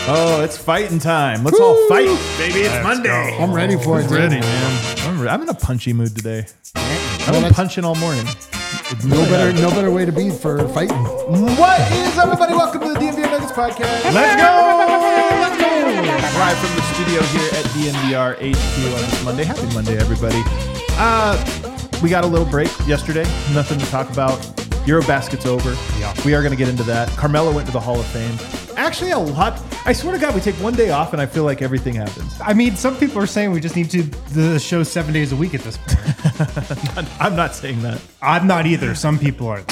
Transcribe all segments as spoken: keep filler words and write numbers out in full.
Oh, it's fighting time. Let's Woo! all fight, baby. It's Let's Monday. Go. I'm ready for I'm it. ready, man. I'm, re- I'm in a punchy mood today. I've Well, been punching all morning. no better, no better way to be for fighting. What is up, everybody? Welcome to the D N V R Nuggets podcast. Let's go! Let's go! Live from the studio here at D N V R H Q on this Monday. Happy Monday, everybody. Uh, we got a little break yesterday. Nothing to talk about. Eurobasket's over. Yeah. We are going to get into that. Carmelo went to the Hall of Fame. Actually, a lot. I swear to God, we take one day off and I feel like everything happens. I mean, some people are saying we just need to the show seven days a week at this point. I'm not saying that. I'm not either. Some people are.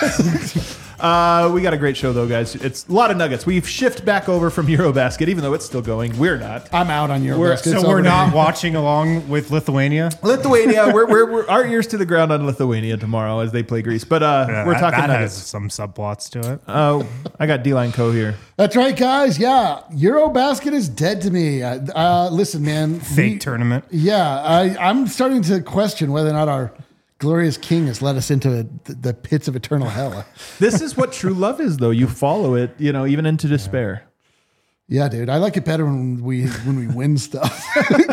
Uh, we got a great show, though, guys. It's a lot of nuggets. We've shifted back over from Eurobasket, even though it's still going. We're not. I'm out on your We're- basket. So It's we're over. not watching along with Lithuania. Lithuania, we're, we're, we're our ears to the ground on Lithuania tomorrow as they play Greece. But uh, Yeah, we're that, talking that has nuggets. some subplots to it. Oh, I got D-Line Co here. That's right, guys. Yeah, Eurobasket is dead to me. Uh, uh, listen, man. Fake we- tournament. Yeah, I, I'm starting to question whether or not our glorious king has led us into the, the pits of eternal hell. This is what true love is, though. You follow it, you know, even into despair. Yeah, dude. I like it better when we when we win stuff.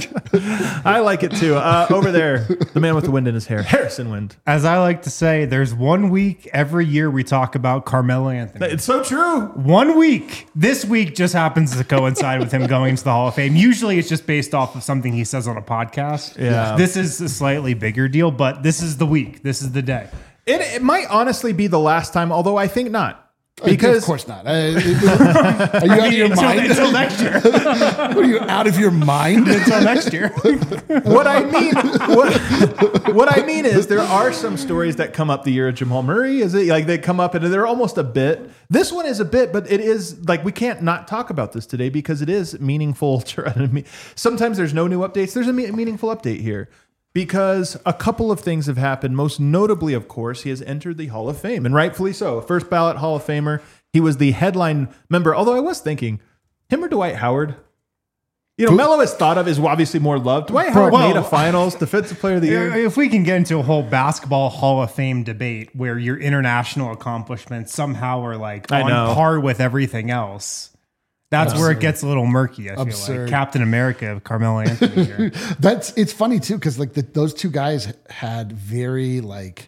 I like it, too. Uh, over there, the man with the wind in his hair, Harrison Wind. As I like to say, there's one week every year we talk about Carmelo Anthony. It's so true. One week. This week just happens to coincide with him going to the Hall of Fame. Usually it's just based off of something he says on a podcast. Yeah. This is a slightly bigger deal, but this is the week. This is the day. It, it might honestly be the last time, although I think not. Because of course not. Uh, are you out of your until, mind? until next year. Are you out of your mind? Until next year. what I mean, what, what I mean is there are some stories that come up the year of Jamal Murray. Is it like they come up and they're almost a bit. This one is a bit, but it is like we can't not talk about this today because it is meaningful. Sometimes there's no new updates. There's a me- meaningful update here. Because a couple of things have happened. Most notably, of course, he has entered the Hall of Fame, and rightfully so. First ballot Hall of Famer. He was the headline member. Although I was thinking, him or Dwight Howard? You know, Melo is thought of as obviously more loved. Dwight Howard well, made a finals, defensive player of the year. If we can get into a whole basketball Hall of Fame debate where your international accomplishments somehow are like I on know. par with everything else. That's Absurd. where it gets a little murky, I feel Absurd. like. Captain America, Carmelo Anthony here. That's it's funny too because like the, those two guys had very like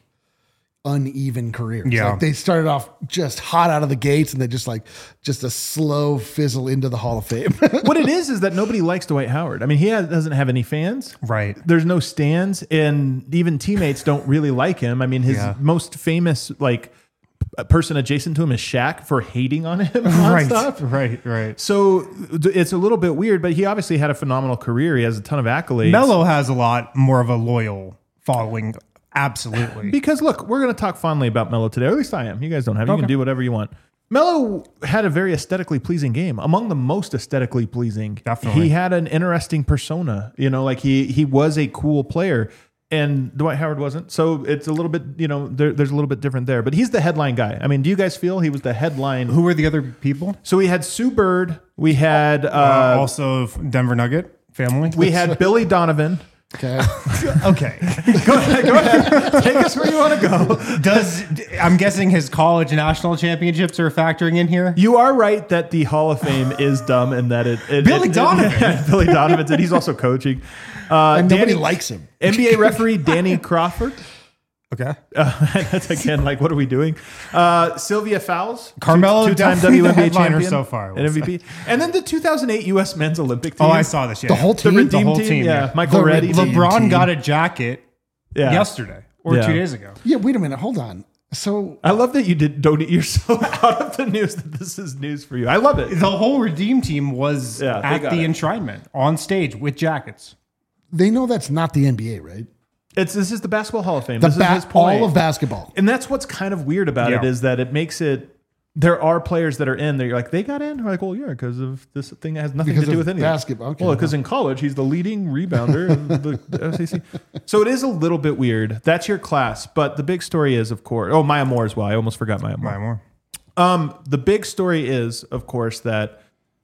uneven careers. Yeah. Like they started off just hot out of the gates and they just like just a slow fizzle into the Hall of Fame. What it is is that nobody likes Dwight Howard. I mean, he has, doesn't have any fans. Right. There's no stands, and even teammates don't really like him. I mean, his Yeah. most famous like a person adjacent to him is Shaq for hating on him on Right, stuff. right, right. So it's a little bit weird, but he obviously had a phenomenal career. He has a ton of accolades. Melo has a lot more of a loyal following. Absolutely. Because look, we're going to talk fondly about Melo today, or at least I am. You guys don't have. You Okay. can do whatever you want. Melo had a very aesthetically pleasing game, among the most aesthetically pleasing. Definitely. He had an interesting persona. You know, like he he was a cool player. And Dwight Howard wasn't. So it's a little bit, you know, there, there's a little bit different there. But he's the headline guy. I mean, do you guys feel he was the headline? Who were the other people? So we had Sue Bird. We had uh, Uh, also Denver Nugget family. we had Billy Donovan. Okay. Okay. Go ahead, go ahead. Take us where you want to go. Does I'm guessing his college national championships are factoring in here? You are right that the Hall of Fame is dumb and that it, it Billy it- it- Donovan. Billy Donovan, and he's also coaching. Uh, And nobody Danny- likes him. N B A referee Danny Crawford. Okay. Uh, that's again like, what are we doing? Uh, Sylvia Fowles, Carmelo, two- two-time definitely W N B A the headliner champion, so far, I will and M V P, and then the two thousand eight U S Men's Olympic team. Oh, I saw this. Yeah. The whole the team. Redeem whole team, team, yeah. yeah. Michael The Reddy. Redeem LeBron team. got a jacket yeah. yesterday or Yeah. two days ago. Yeah, wait a minute. Hold on. So I love that you did. Don't you're so out of the news that this is news for you. I love it. The whole Redeem team was Yeah, they at got the it. enshrinement on stage with jackets. they know that's not the N B A, right? It's this is the Basketball Hall of Fame. The this ba- is his point. all of basketball. And that's what's kind of weird about it Yeah. is that it makes it. There are players that are in there. You're like, they got in? We're like, well, yeah, because of this thing that has nothing Because to do of with anything. basketball. Okay. Well, because in college, he's the leading rebounder of the S E C. So it is a little bit weird. That's your class. But the big story is, of course, oh, Maya Moore as well. I almost forgot Maya Moore. Maya Moore. Um, the big story is, of course, that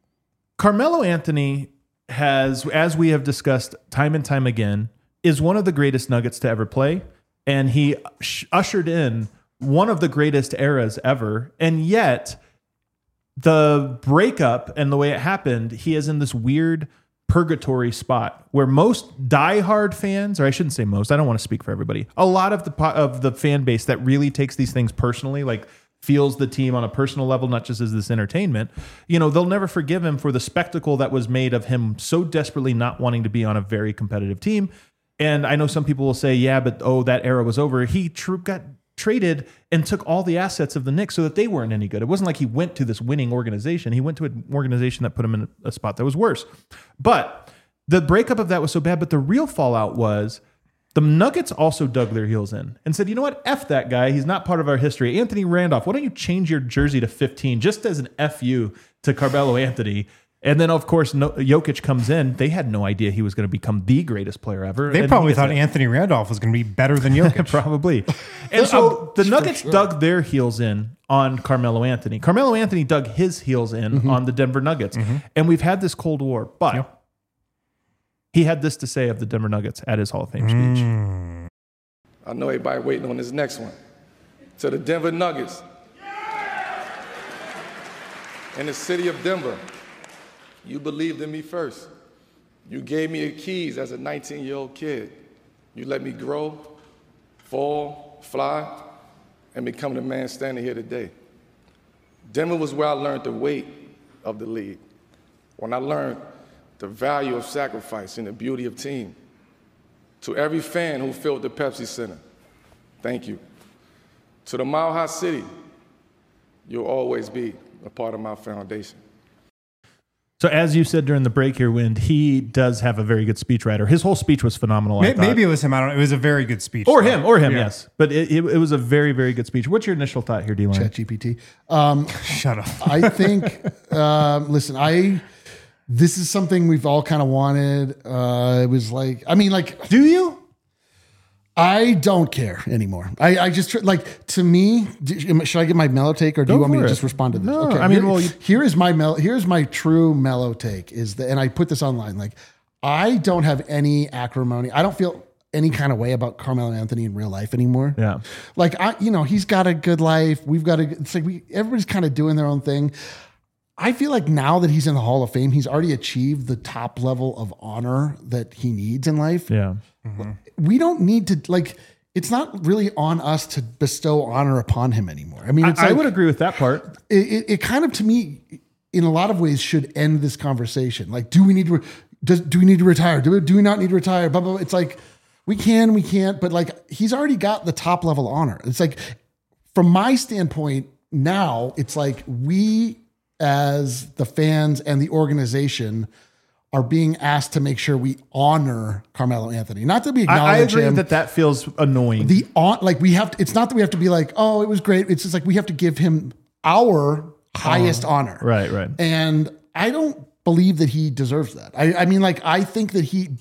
Carmelo Anthony has, as we have discussed time and time again, is one of the greatest Nuggets to ever play. And he sh- ushered in one of the greatest eras ever. And yet, the breakup and the way it happened, he is in this weird purgatory spot where most diehard fans, or I shouldn't say most, I don't want to speak for everybody, a lot of the po- of the fan base that really takes these things personally, like feels the team on a personal level, not just as this entertainment, you know, they'll never forgive him for the spectacle that was made of him so desperately not wanting to be on a very competitive team. And I know some people will say, yeah, but oh, that era was over. He tr- got traded and took all the assets of the Knicks so that they weren't any good. It wasn't like he went to this winning organization. He went to an organization that put him in a spot that was worse. But the breakup of that was so bad. But the real fallout was the Nuggets also dug their heels in and said, you know what? F that guy. He's not part of our history. Anthony Randolph, why don't you change your jersey to fifteen just as an F you to Carmelo Anthony? And then, of course, no, Jokic comes in. They had no idea he was going to become the greatest player ever. They and probably thought it. Anthony Randolph was going to be better than Jokic. Probably. And so the Nuggets sure. dug their heels in on Carmelo Anthony. Carmelo Anthony dug his heels in mm-hmm. on the Denver Nuggets. Mm-hmm. And we've had this Cold War. But yep. he had this to say of the Denver Nuggets at his Hall of Fame mm. speech. I know everybody waiting on this next one. To the Denver Nuggets. In the city of Denver. You believed in me first. You gave me the keys as a nineteen-year-old kid. You let me grow, fall, fly, and become the man standing here today. Denver was where I learned the weight of the league, when I learned the value of sacrifice and the beauty of team. To every fan who filled the Pepsi Center, thank you. To the Mile High City, you'll always be a part of my foundation. So as you said during the break here, Wind, he does have a very good speechwriter. His whole speech was phenomenal. Maybe, maybe it was him. I don't know. It was a very good speech. Or though. him, or him, yeah. yes. But it, it, it was a very, very good speech. What's your initial thought here, D-Line? ChatGPT. Um, Shut up. I think, uh, listen, I... This is something we've all kind of wanted. Uh, it was like, I mean, like... Do you? I don't care anymore. I, I just, like, to me, should I get my mellow take or do Go you want me to it. just respond to this? No, okay. I mean, here, well... You, here is my mellow, here's my true mellow take is that, and I put this online, like, I don't have any acrimony. I don't feel any kind of way about Carmelo Anthony in real life anymore. Yeah. Like, I, you know, he's got a good life. We've got a, it's like we, everybody's kind of doing their own thing. I feel like now that he's in the Hall of Fame, he's already achieved the top level of honor that he needs in life. Yeah. Mm-hmm. We don't need to, like, it's not really on us to bestow honor upon him anymore. I mean, it's I, like, I would agree with that part. It, it, it kind of, to me, in a lot of ways, should end this conversation. Like, do we need to, re- does, do we need to retire? Do we, do we not need to retire? Blah, blah, blah. It's like, we can, we can't, but like, he's already got the top level honor. It's like, from my standpoint now, it's like we, as the fans and the organization, are being asked to make sure we honor Carmelo Anthony. Not that we acknowledge I, I agree him. that that feels annoying. The on, like we have to, it's not that we have to be like, oh, it was great. It's just like we have to give him our highest oh, honor. Right, right. And I don't believe that he deserves that. I, I mean, like, I think that he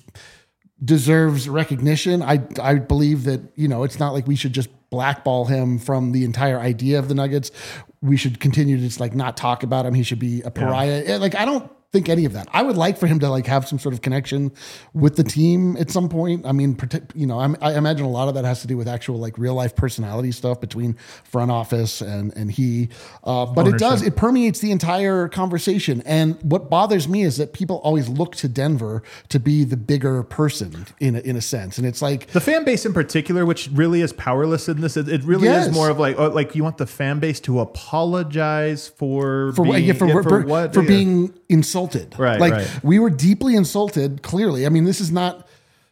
deserves recognition. I, I believe that, you know, it's not like we should just blackball him from the entire idea of the Nuggets. We should continue to just like not talk about him. He should be a pariah. Yeah. Like, I don't think any of that. I would like for him to like have some sort of connection with the team at some point. I mean, you know, I'm, I imagine a lot of that has to do with actual like real life personality stuff between front office and and he. Uh, but Ownership. It does, it permeates the entire conversation. And what bothers me is that people always look to Denver to be the bigger person in a, in a sense. And it's like the fan base in particular, which really is powerless in this. It, it really yes. is more of like, oh, like you want the fan base to apologize for for, being, yeah, for, yeah, for, for what for yeah. being insulted. Right, like right. we were deeply insulted. Clearly, I mean, this is not.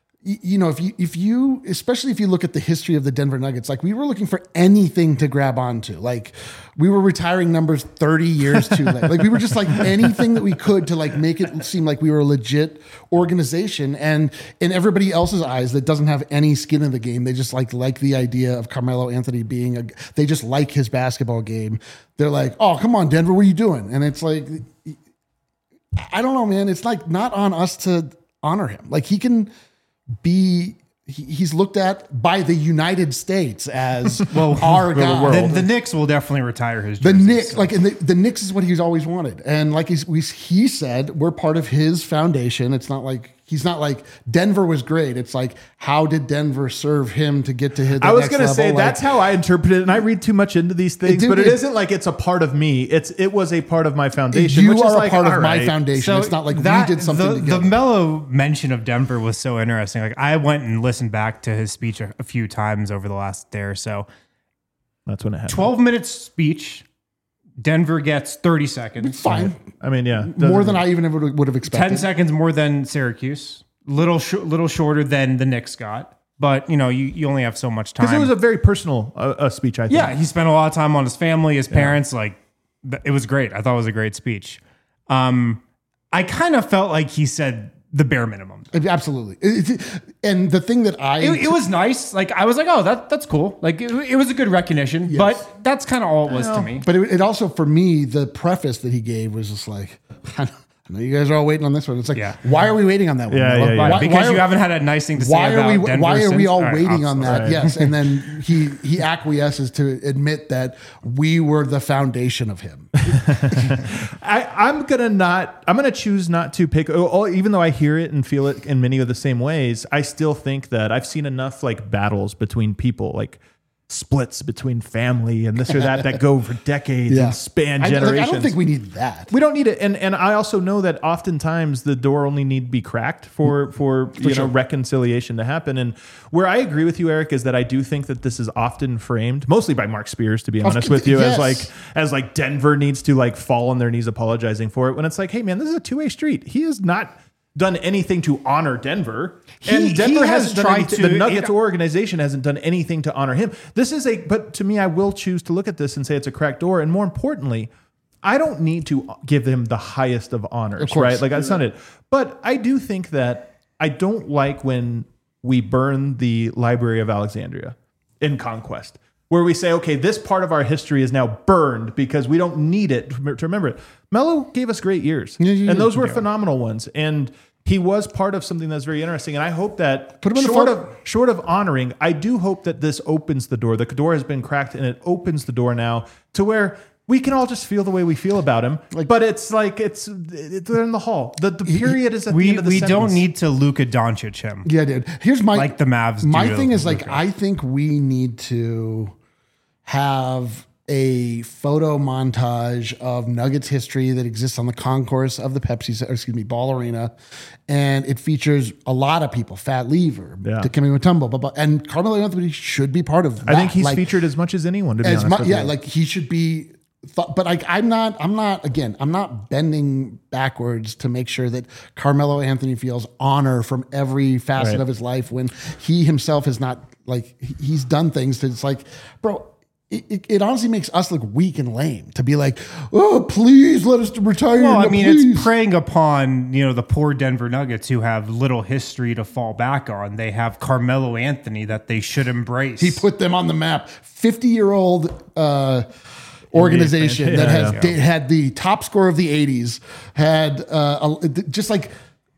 You know, if you if you especially if you look at the history of the Denver Nuggets, like we were looking for anything to grab onto. Like we were retiring numbers thirty years too late. Like we were just like anything that we could to like make it seem like we were a legit organization. And in everybody else's eyes that doesn't have any skin in the game, they just like like the idea of Carmelo Anthony being a. They just like his basketball game. They're like, oh, come on, Denver, what are you doing? And it's like, I don't know, man. It's like not on us to honor him. Like he can. Be he, he's looked at by the United States as well our guy. The, the Knicks will definitely retire his jersey. The Knicks, so. like and the, the Knicks is what he's always wanted, and like he's, we, he said, we're part of his foundation. It's not like He's not like Denver was great. It's like, how did Denver serve him to get to his? I was going to level? say like, that's how I interpret it, and I read too much into these things. It, but it, it isn't like it's a part of me. It's it was a part of my foundation. You which are is a like, part of all my right. foundation. So it's not like that- we did something the, together. The Melo mention of Denver was so interesting. Like I went and listened back to his speech a, a few times over the last day or so. That's when it happened. twelve minutes speech. Denver gets thirty seconds. It's fine. I mean, yeah, More doesn't- than I even would, would have expected. ten seconds more than Syracuse. Little sh- little shorter than the Knicks got. But, you know, you, you only have so much time. because it was a very personal uh, uh, speech. I think. Yeah, he spent a lot of time on his family, his parents. Like, th- it was great. I thought it was a great speech. Um, I kind of felt like he said the bare minimum. Absolutely. It- it- and the thing that I It, it was nice. Like, I was like, oh, that that's cool. Like, it, it was a good recognition. But that's kind of all it was to me. But it, it also, for me, the preface that he gave was just like, I know you guys are all waiting on this one. It's like, Yeah. why are we waiting on that one? Yeah, Melo? yeah, yeah. Why, Why? Because why you are, haven't had a nice thing to say why about are we? Denver Why are we since- all right, waiting I'm on that? sorry. Yes, and then he he acquiesces to admit that we were the foundation of him. I, I'm gonna not. I'm gonna choose not to pick. oh, oh, Even though I hear it and feel it in many of the same ways, I still think that I've seen enough like battles between people, like splits between family and this or that, that go for decades and span I, like, generations. I don't think we need that. We don't need it, and and I also know that oftentimes the door only need to be cracked for for, you sure. know reconciliation to happen. And where I agree with you, Eric, is that I do think that this is often framed, mostly by Mark Spears, to be honest with you, yes. as like as like Denver needs to like fall on their knees apologizing for it. When it's like, hey man, this is a two way street. He has not done anything to honor Denver, He- and Denver he has hasn't done tried anything. to- The Nuggets it- organization hasn't done anything to honor him. This is a, but to me, I will choose to look at this and say it's a cracked door. And more importantly, I don't need to give him the highest of honors, Of course. right? Like that's not it. But I do think that I don't like when we burn the Library of Alexandria in Conquest, where we say, okay, this part of our history is now burned because we don't need it to remember it. Melo gave us great years, Yeah, yeah, and those yeah. were phenomenal ones. And he was part of something that's very interesting. And I hope that Put him in the short front- of short of honoring, I do hope that this opens the door. The door has been cracked, and it opens the door now to where we can all just feel the way we feel about him. but it's like it's, it's they're in the hall. The, the period is at the We, end of the we sentence. don't need to Luka Doncic him. Yeah, dude. Here's my Like the Mavs do My to thing is like Luka. I think we need to have a photo montage of Nuggets history that exists on the concourse of the Pepsi, or excuse me, Ball Arena, and it features a lot of people: Fat Lever, Yeah. Dikembe Mutombo, blah, blah, and Carmelo Anthony should be part of that. I think he's Like, featured as much as anyone. To be as honest much, with yeah, you. like he should be. Th- but like I'm not, I'm not. Again, I'm not bending backwards to make sure that Carmelo Anthony feels honor from every facet Right. of his life when he himself has not like he- he's done things that it's like, bro. It, it, it honestly makes us look weak and lame to be like, oh, please let us retire. Well, I no, mean, please. it's preying upon, you know, the poor Denver Nuggets who have little history to fall back on. They have Carmelo Anthony that they should embrace. He put them on the map. fifty-year-old uh, organization Yeah, that has yeah. da- had the top score of the eighties, had uh, a, just like,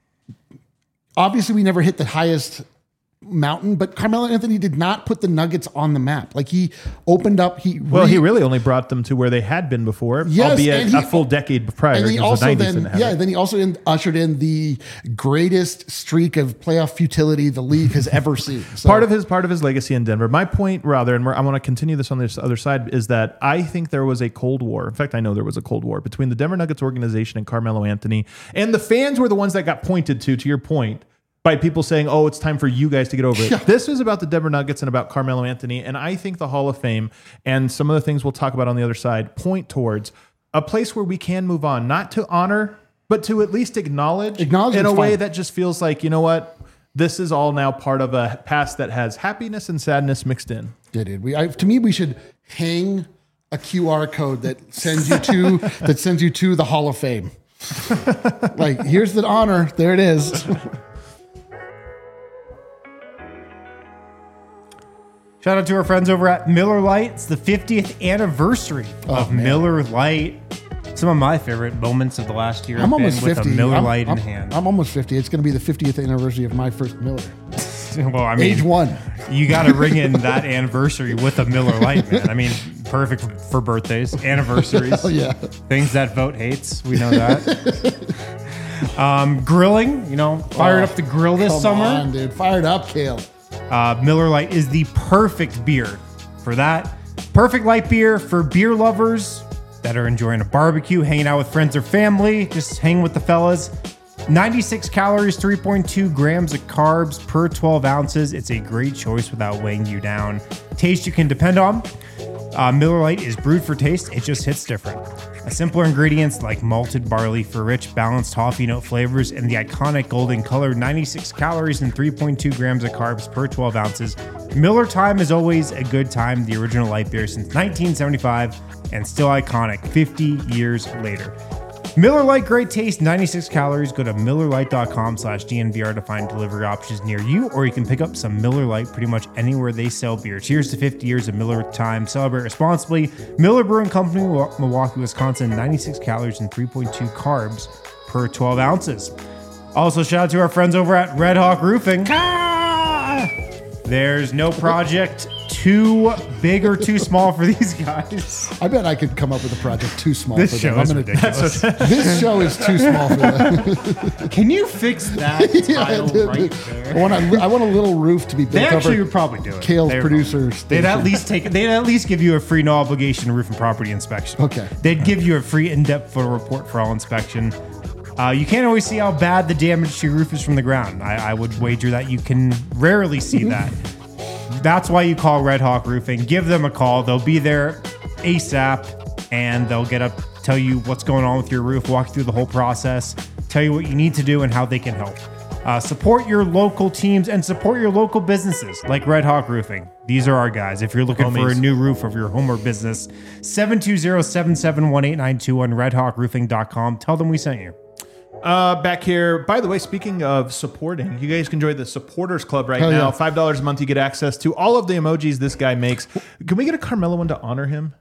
obviously we never hit the highest mountain, but Carmelo Anthony did not put the Nuggets on the map. Like he opened up, he well, re- he really only brought them to where they had been before, Yes, albeit and he- a full decade prior. And he because also the nineties then, didn't have yeah, it. then he also in, ushered in the greatest streak of playoff futility the league has ever seen. So, part of his part of his legacy in Denver. My point, rather, and we're, I want to continue this on this other side, is that I think there was a Cold War. In fact, I know there was a Cold War between the Denver Nuggets organization and Carmelo Anthony, and the fans were the ones that got pointed to. To your point, by people saying, "Oh, it's time for you guys to get over it." Yeah. This is about the Denver Nuggets and about Carmelo Anthony, and I think the Hall of Fame and some of the things we'll talk about on the other side point towards a place where we can move on, not to honor, but to at least acknowledge, in a Acknowledgement's way fine. that just feels like, you know what, this is all now part of a past that has happiness and sadness mixed in. Yeah, dude. We, I, to me, we should hang a Q R code that sends you to that sends you to the Hall of Fame. Like, here's the honor. There it is. Shout out to our friends over at Miller Lite. It's the fiftieth anniversary of man. Miller Lite. Some of my favorite moments of the last year I'm have been almost with fifty. a Miller I'm, Lite I'm, in hand. I'm almost fifty. It's going to be the fiftieth anniversary of my first Miller. well, I mean, Age one. you got to ring in that anniversary with a Miller Lite, man. I mean, perfect for, for birthdays, anniversaries, Oh yeah. things that vote hates. We know that. Um, grilling, you know, fired Oh, up the grill this Come summer. on, dude. Fired up, Kale. Uh, Miller Lite is the perfect beer for that. Perfect light beer for beer lovers that are enjoying a barbecue, hanging out with friends or family, just hang with the fellas. ninety-six calories, three point two grams of carbs per twelve ounces. It's a great choice without weighing you down. Taste you can depend on. Uh, Miller Lite is brewed for taste. It just hits different. A simpler ingredients like malted barley for rich, balanced toffee note flavors and the iconic golden color, ninety-six calories and three point two grams of carbs per twelve ounces. Miller Time is always a good time. The original light beer since nineteen seventy-five and still iconic fifty years later. Miller Lite, great taste, ninety-six calories. Go to miller lite dot com slash D N V R to find delivery options near you, or you can pick up some Miller Lite pretty much anywhere they sell beer. Cheers to fifty years of Miller Time. Celebrate responsibly. Miller Brewing Company, Milwaukee, Wisconsin, ninety-six calories and three point two carbs per twelve ounces. Also, shout out to our friends over at Red Hawk Roofing. There's no project too big or too small for these guys. I bet I could come up with a project too small This for show them. is I'm gonna- ridiculous. This show is too small for them. Can you fix that Yeah, title dude, right dude. there? I want a, I want a little roof to be built They actually over would probably do it. Kale's They would producer probably- station. They'd at least take. They'd at least give you a free no obligation roof and property inspection. Okay. They'd give you a free in-depth photo report for all inspection. Uh, you can't always see how bad the damage to your roof is from the ground. I, I would wager that you can rarely see that. That's why you call Red Hawk Roofing. Give them a call. They'll be there ASAP, and they'll get up, tell you what's going on with your roof, walk you through the whole process, tell you what you need to do and how they can help. Uh, support your local teams and support your local businesses like Red Hawk Roofing. These are our guys. If you're looking for a Homies. new roof of your home or business, seven two zero, seven seven one, eight nine two on red hawk roofing dot com. Tell them we sent you. Uh, back here. By the way, speaking of supporting, you guys can join the Supporters Club right Hell now. yeah. Five dollars a month, you get access to all of the emojis this guy makes. Can we get a Carmelo one to honor him?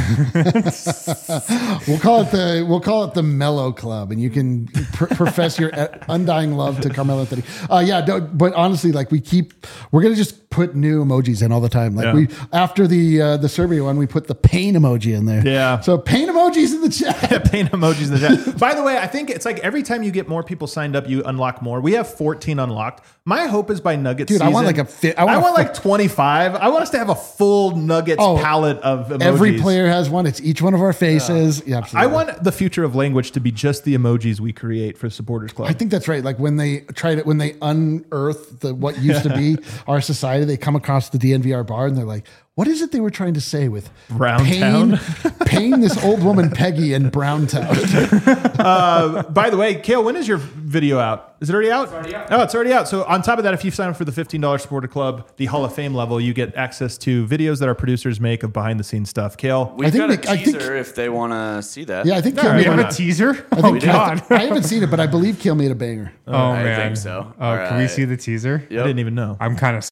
We'll call it the we'll call it the Mellow Club, and you can pr- profess your uh, undying love to Carmelo Anthony. Uh, yeah, no, but honestly, like we keep, we're gonna just put new emojis in all the time. Like Yeah. we after the uh, the survey one, we put the pain emoji in there. Yeah. So pain emojis in the chat. Paint emojis in the chat. By the way, I think it's like every time you get more people signed up, you unlock more. We have fourteen unlocked. My hope is by Nuggets Dude, I season. want like a fi- I I want want, a like twenty-five. I want us to have a full Nuggets Oh, palette of emojis. Every player has one. It's each one of our faces. Yeah, I absolutely. want the future of language to be just the emojis we create for Supporters Club. I think that's right. Like when they try to, when they unearth the what used to be our society, they come across the D N V R bar and they're like, "What is it they were trying to say with Brown pain, Town?" pain this old woman Peggy in Brown Town." Uh, by the way, Kale, when is your video out? Is it already out? It's already out. Oh, it's already out. So on top of that, if you sign up for the fifteen dollars Supporter Club, the Hall of Fame level, you get access to videos that our producers make of behind the scenes stuff. Kale, We've think got they- a I think- teaser if they want to see that. Yeah, I think All Kale right, made We why have a, a teaser. I Oh think God. I, I haven't seen it, but I believe Kale made a banger. Oh I man. think so. Oh, All can we right. see the teaser? I didn't even know. I'm kind of.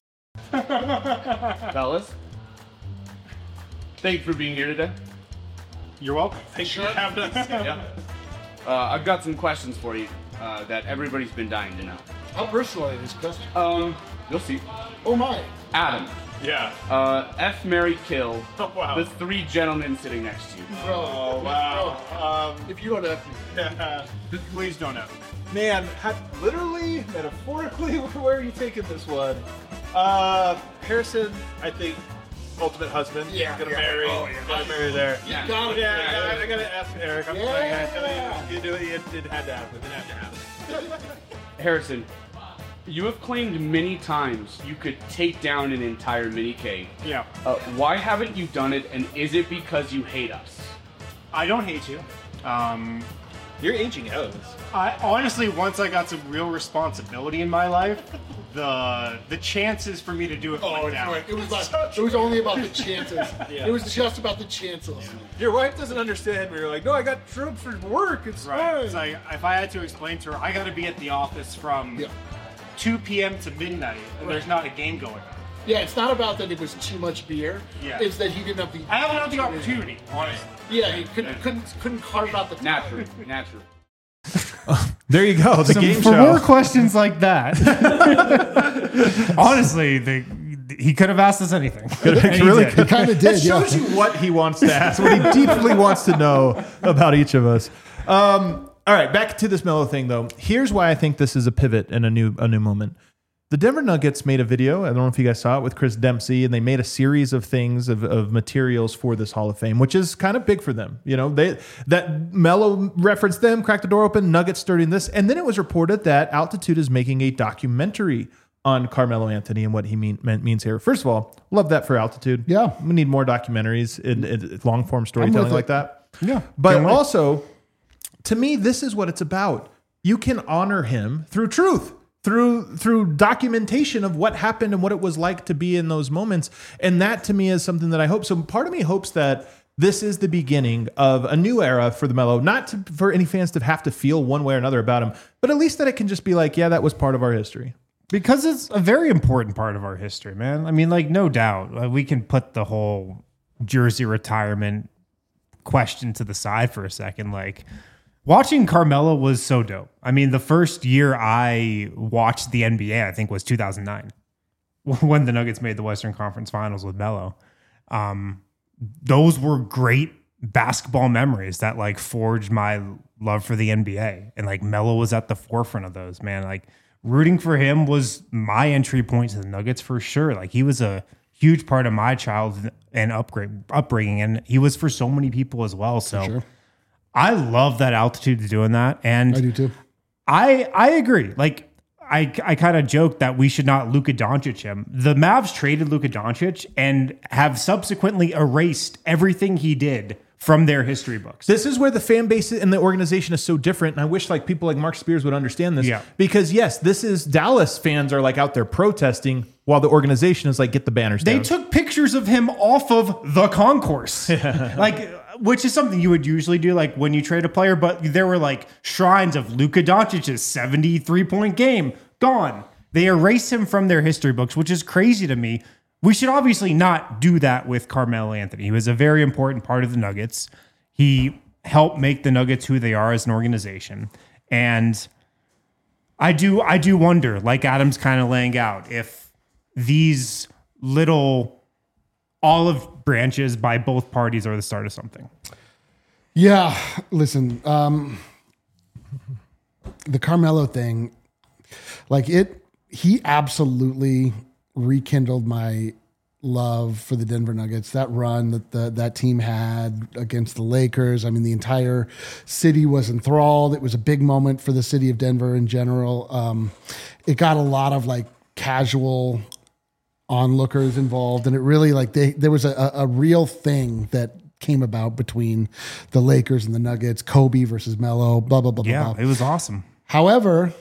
Fellas, thanks for being here today. You're welcome. Thanks for having us. Yeah. Uh, I've got some questions for you uh, that everybody's been dying to know. How personal is this question? Um, you'll see. Oh my! Adam, Yeah. uh, F, Mary, kill Oh, wow. the three gentlemen sitting next to you. Oh, wow. Um, If you don't have please don't have. Man, ha- literally, metaphorically, where are you taking this one? Uh, Harrison, I think, ultimate husband. Yeah, Gonna yeah. marry. Oh, yeah. Gonna marry there. Yeah. got it. Yeah, I, I gotta ask Eric. I'm Yeah. sorry, guys. You do it. It, it had to happen. It had to happen. Harrison, you have claimed many times you could take down an entire mini K. Yeah. Uh, why haven't you done it, and is it because you hate us? I don't hate you. Um, You're aging out. I honestly, once I got some real responsibility in my life, the the chances for me to do it went down. It was like, it was only about the chances. It was just about the chances. Your wife doesn't understand. We're like, no, I got drugs for work. It's Right. It's fine. like, if I had to explain to her, I got to be at the office from Yeah. two p.m. to midnight, and there's not a game going on. Yeah, it's not about that it was too much beer. Yeah. It's that he didn't have the. I haven't had the opportunity, honestly. Yeah, he couldn't couldn't couldn't carve out the time. Natural, natural. There you go. The Some- game for show. more questions like that. Honestly, the, he could have asked us anything. And he really did. could. Kind of That did, yeah. shows you what he wants to ask, what he deeply wants to know about each of us. Um, All right, back to this Melo thing though. Here's why I think this is a pivot and a new a new moment. The Denver Nuggets made a video. I don't know if you guys saw it with Chris Dempsey, and they made a series of things of, of materials for this Hall of Fame, which is kind of big for them. You know, they that Melo referenced them, cracked the door open, Nuggets starting this, and then it was reported that Altitude is making a documentary on Carmelo Anthony and what he mean, meant, means here. First of all, love that for Altitude. Yeah, we need more documentaries in, in long form storytelling like that. Yeah, but also, to me, this is what it's about. You can honor him through truth. Through through documentation of what happened and what it was like to be in those moments. And that to me is something that I hope. So part of me hopes that this is the beginning of a new era for the Melo, not to, for any fans to have to feel one way or another about him, but at least that it can just be like, yeah, that was part of our history. Because it's a very important part of our history, man. I mean, like, no doubt. Like, we can put the whole jersey retirement question to the side for a second. Like, watching Carmelo was so dope. I mean, the first year I watched the N B A, I think, was two thousand nine, when the Nuggets made the Western Conference Finals with Melo. Um, those were great basketball memories that, like, forged my love for the N B A. And, like, Melo was at the forefront of those, man. Like, rooting for him was my entry point to the Nuggets for sure. Like, he was a huge part of my childhood and upgrade, upbringing, and he was for so many people as well. So sure. I love that Altitude doing that. And I do too. I I agree. Like, I I kind of joked that we should not Luka Doncic him. The Mavs traded Luka Doncic and have subsequently erased everything he did from their history books. This is where the fan base and the organization is so different. And I wish like people like Mark Spears would understand this. Yeah. Because yes, this is Dallas fans are like out there protesting while the organization is like, get the banners They down. took pictures of him off of the concourse. Like, which is something you would usually do, like when you trade a player, but there were like shrines of Luka Doncic's seventy-three point game gone. They erased him from their history books, which is crazy to me. We should obviously not do that with Carmelo Anthony. He was a very important part of the Nuggets. He helped make the Nuggets who they are as an organization. And I do, I do wonder, like Adam's kind of laying out, if these little olive branches by both parties are the start of something. Yeah, listen, um, the Carmelo thing, like it, he absolutely rekindled my love for the Denver Nuggets. That run that the, that team had against the Lakers. I mean, the entire city was enthralled. It was a big moment for the city of Denver in general. Um, it got a lot of like casual onlookers involved, and it really like they there was a, a real thing that came about between the Lakers and the Nuggets. Kobe versus Melo. Blah blah blah. Yeah, blah. it was awesome. However,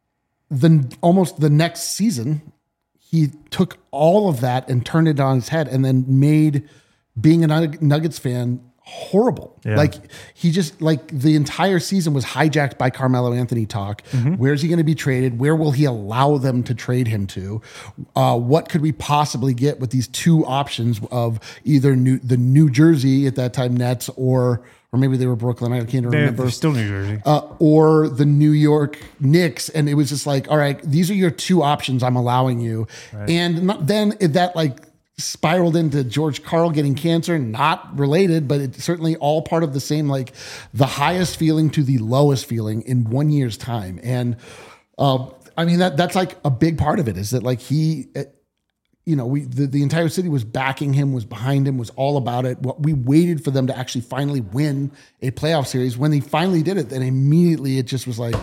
the almost the next season, he took all of that and turned it on its head, and then made being a Nuggets fan horrible. Yeah. Like he just like the entire season was hijacked by Carmelo Anthony talk. Mm-hmm. Where's he going to be traded? Where will he allow them to trade him to? Uh, what could we possibly get with these two options of either new, the New Jersey at that time Nets or or maybe they were Brooklyn. I can't They're, remember. they're still New Jersey. Uh, or the New York Knicks. And it was just like, all right, these are your two options I'm allowing you. Right. And not, then it, that like spiraled into George Karl getting cancer, not related, but it's certainly all part of the same, like the highest feeling to the lowest feeling in one year's time. And uh, I mean, that that's like a big part of it is that like he, you know, we the, the entire city was backing him, was behind him, was all about it. What we waited for them to actually finally win a playoff series. When they finally did it, then immediately it just was like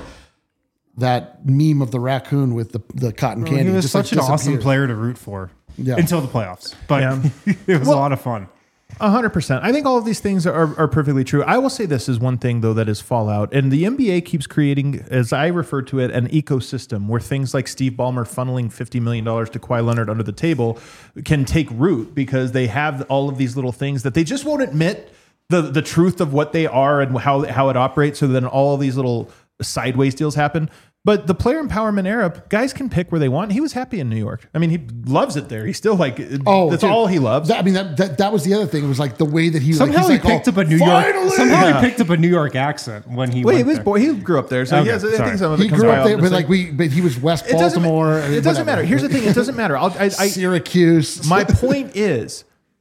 that meme of the raccoon with the, the cotton candy. He was just such like an awesome disappeared. player to root for Yeah. until the playoffs. But Yeah. it was Well, a lot of fun. A hundred percent. I think all of these things are, are perfectly true. I will say this is one thing though that is fallout, and the N B A keeps creating, as I refer to it, an ecosystem where things like Steve Ballmer funneling fifty million dollars to Kawhi Leonard under the table can take root because they have all of these little things that they just won't admit the the truth of what they are and how how it operates. So then all of these little sideways deals happen. But the player empowerment era, guys can pick where they want. He was happy in New York. I mean, he loves it there. He's still like, Oh, that's dude. all he loves. That, I mean, that, that that was the other thing. It was like the way that he Somehow like, he he's like, picked oh, up a New finally! York. Somehow Yeah. he picked up a New York accent when he Well, he went was there. born, he grew up there, so Okay, he has, I sorry. think some of it He comes grew by up there, out. but It's like we, but he was West It doesn't, Baltimore. it doesn't matter. Here's the thing. It doesn't matter. I'll, I, I, Syracuse. my point is,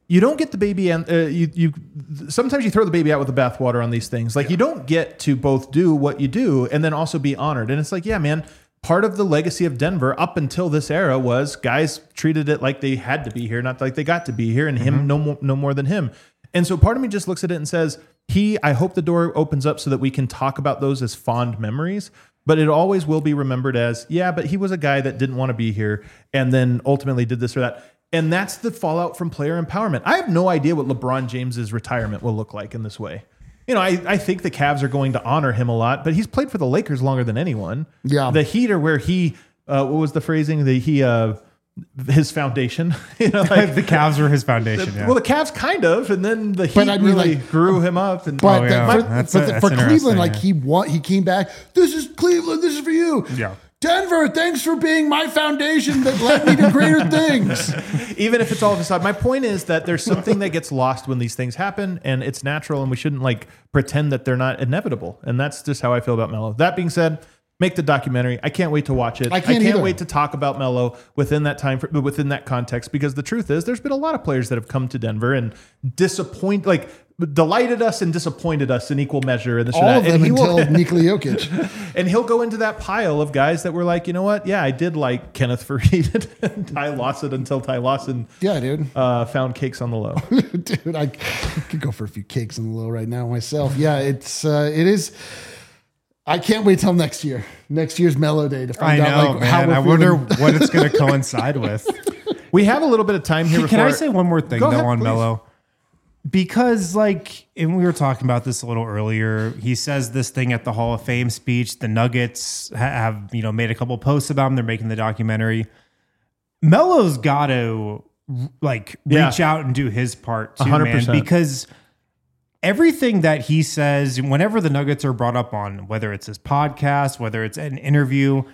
you don't get the baby and uh, you you sometimes you throw the baby out with the bathwater on these things. Like yeah. you don't get to both do what you do and then also be honored. And it's like, yeah, man, part of the legacy of Denver up until this era was guys treated it like they had to be here, not like they got to be here, and mm-hmm. him no more, no more than him. And so part of me just looks at it and says, he, I hope the door opens up so that we can talk about those as fond memories, but it always will be remembered as, yeah, but he was a guy that didn't want to be here and then ultimately did this or that. And that's the fallout from player empowerment. I have no idea what LeBron James's retirement will look like in this way. You know, I, I think the Cavs are going to honor him a lot, but he's played for the Lakers longer than anyone. Yeah. The Heat are where he, uh, what was the phrasing? The, he, uh, his foundation. You know, like, the Cavs were his foundation. The, yeah. Well, the Cavs kind of, and then the Heat I mean, really like, grew him up. And but oh, yeah. the, for, That's but a, the, that's for Cleveland, like yeah. he won, he came back. This is Cleveland. This is for you. Yeah. Denver, thanks for being my foundation that led me to greater things. Even if it's all of a sudden, my point is that there's something that gets lost when these things happen, and it's natural, and we shouldn't like pretend that they're not inevitable. And that's just how I feel about Melo. That being said, make the documentary. I can't wait to watch it. I can't, I can't either. wait to talk about Melo within that time, for, within that context, because the truth is, there's been a lot of players that have come to Denver and disappoint, like delighted us and disappointed us in equal measure. And this all or that. of them and he until will, Nikola Jokic. And he'll go into that pile of guys that were like, you know what? Yeah, I did like Kenneth Faried and Ty Lawson until Ty Lawson yeah, dude. Uh, found cakes on the low. Dude, I could go for a few cakes on the low right now myself. Yeah, it's uh, it is. I can't wait till next year. Next year's Melo Day to find I know, out like man. how we're I wonder feeling. what it's going to coincide with. We have a little bit of time here. Hey, can before, I say one more thing Go though ahead, on please. Melo? Because like, and we were talking about this a little earlier. He says this thing at the Hall of Fame speech. The Nuggets ha- have you know made a couple posts about him. They're making the documentary. Melo's got to like reach Yeah. out and do his part too, one hundred man. percent. Because everything that he says, whenever the Nuggets are brought up on, whether it's his podcast, whether it's an interview,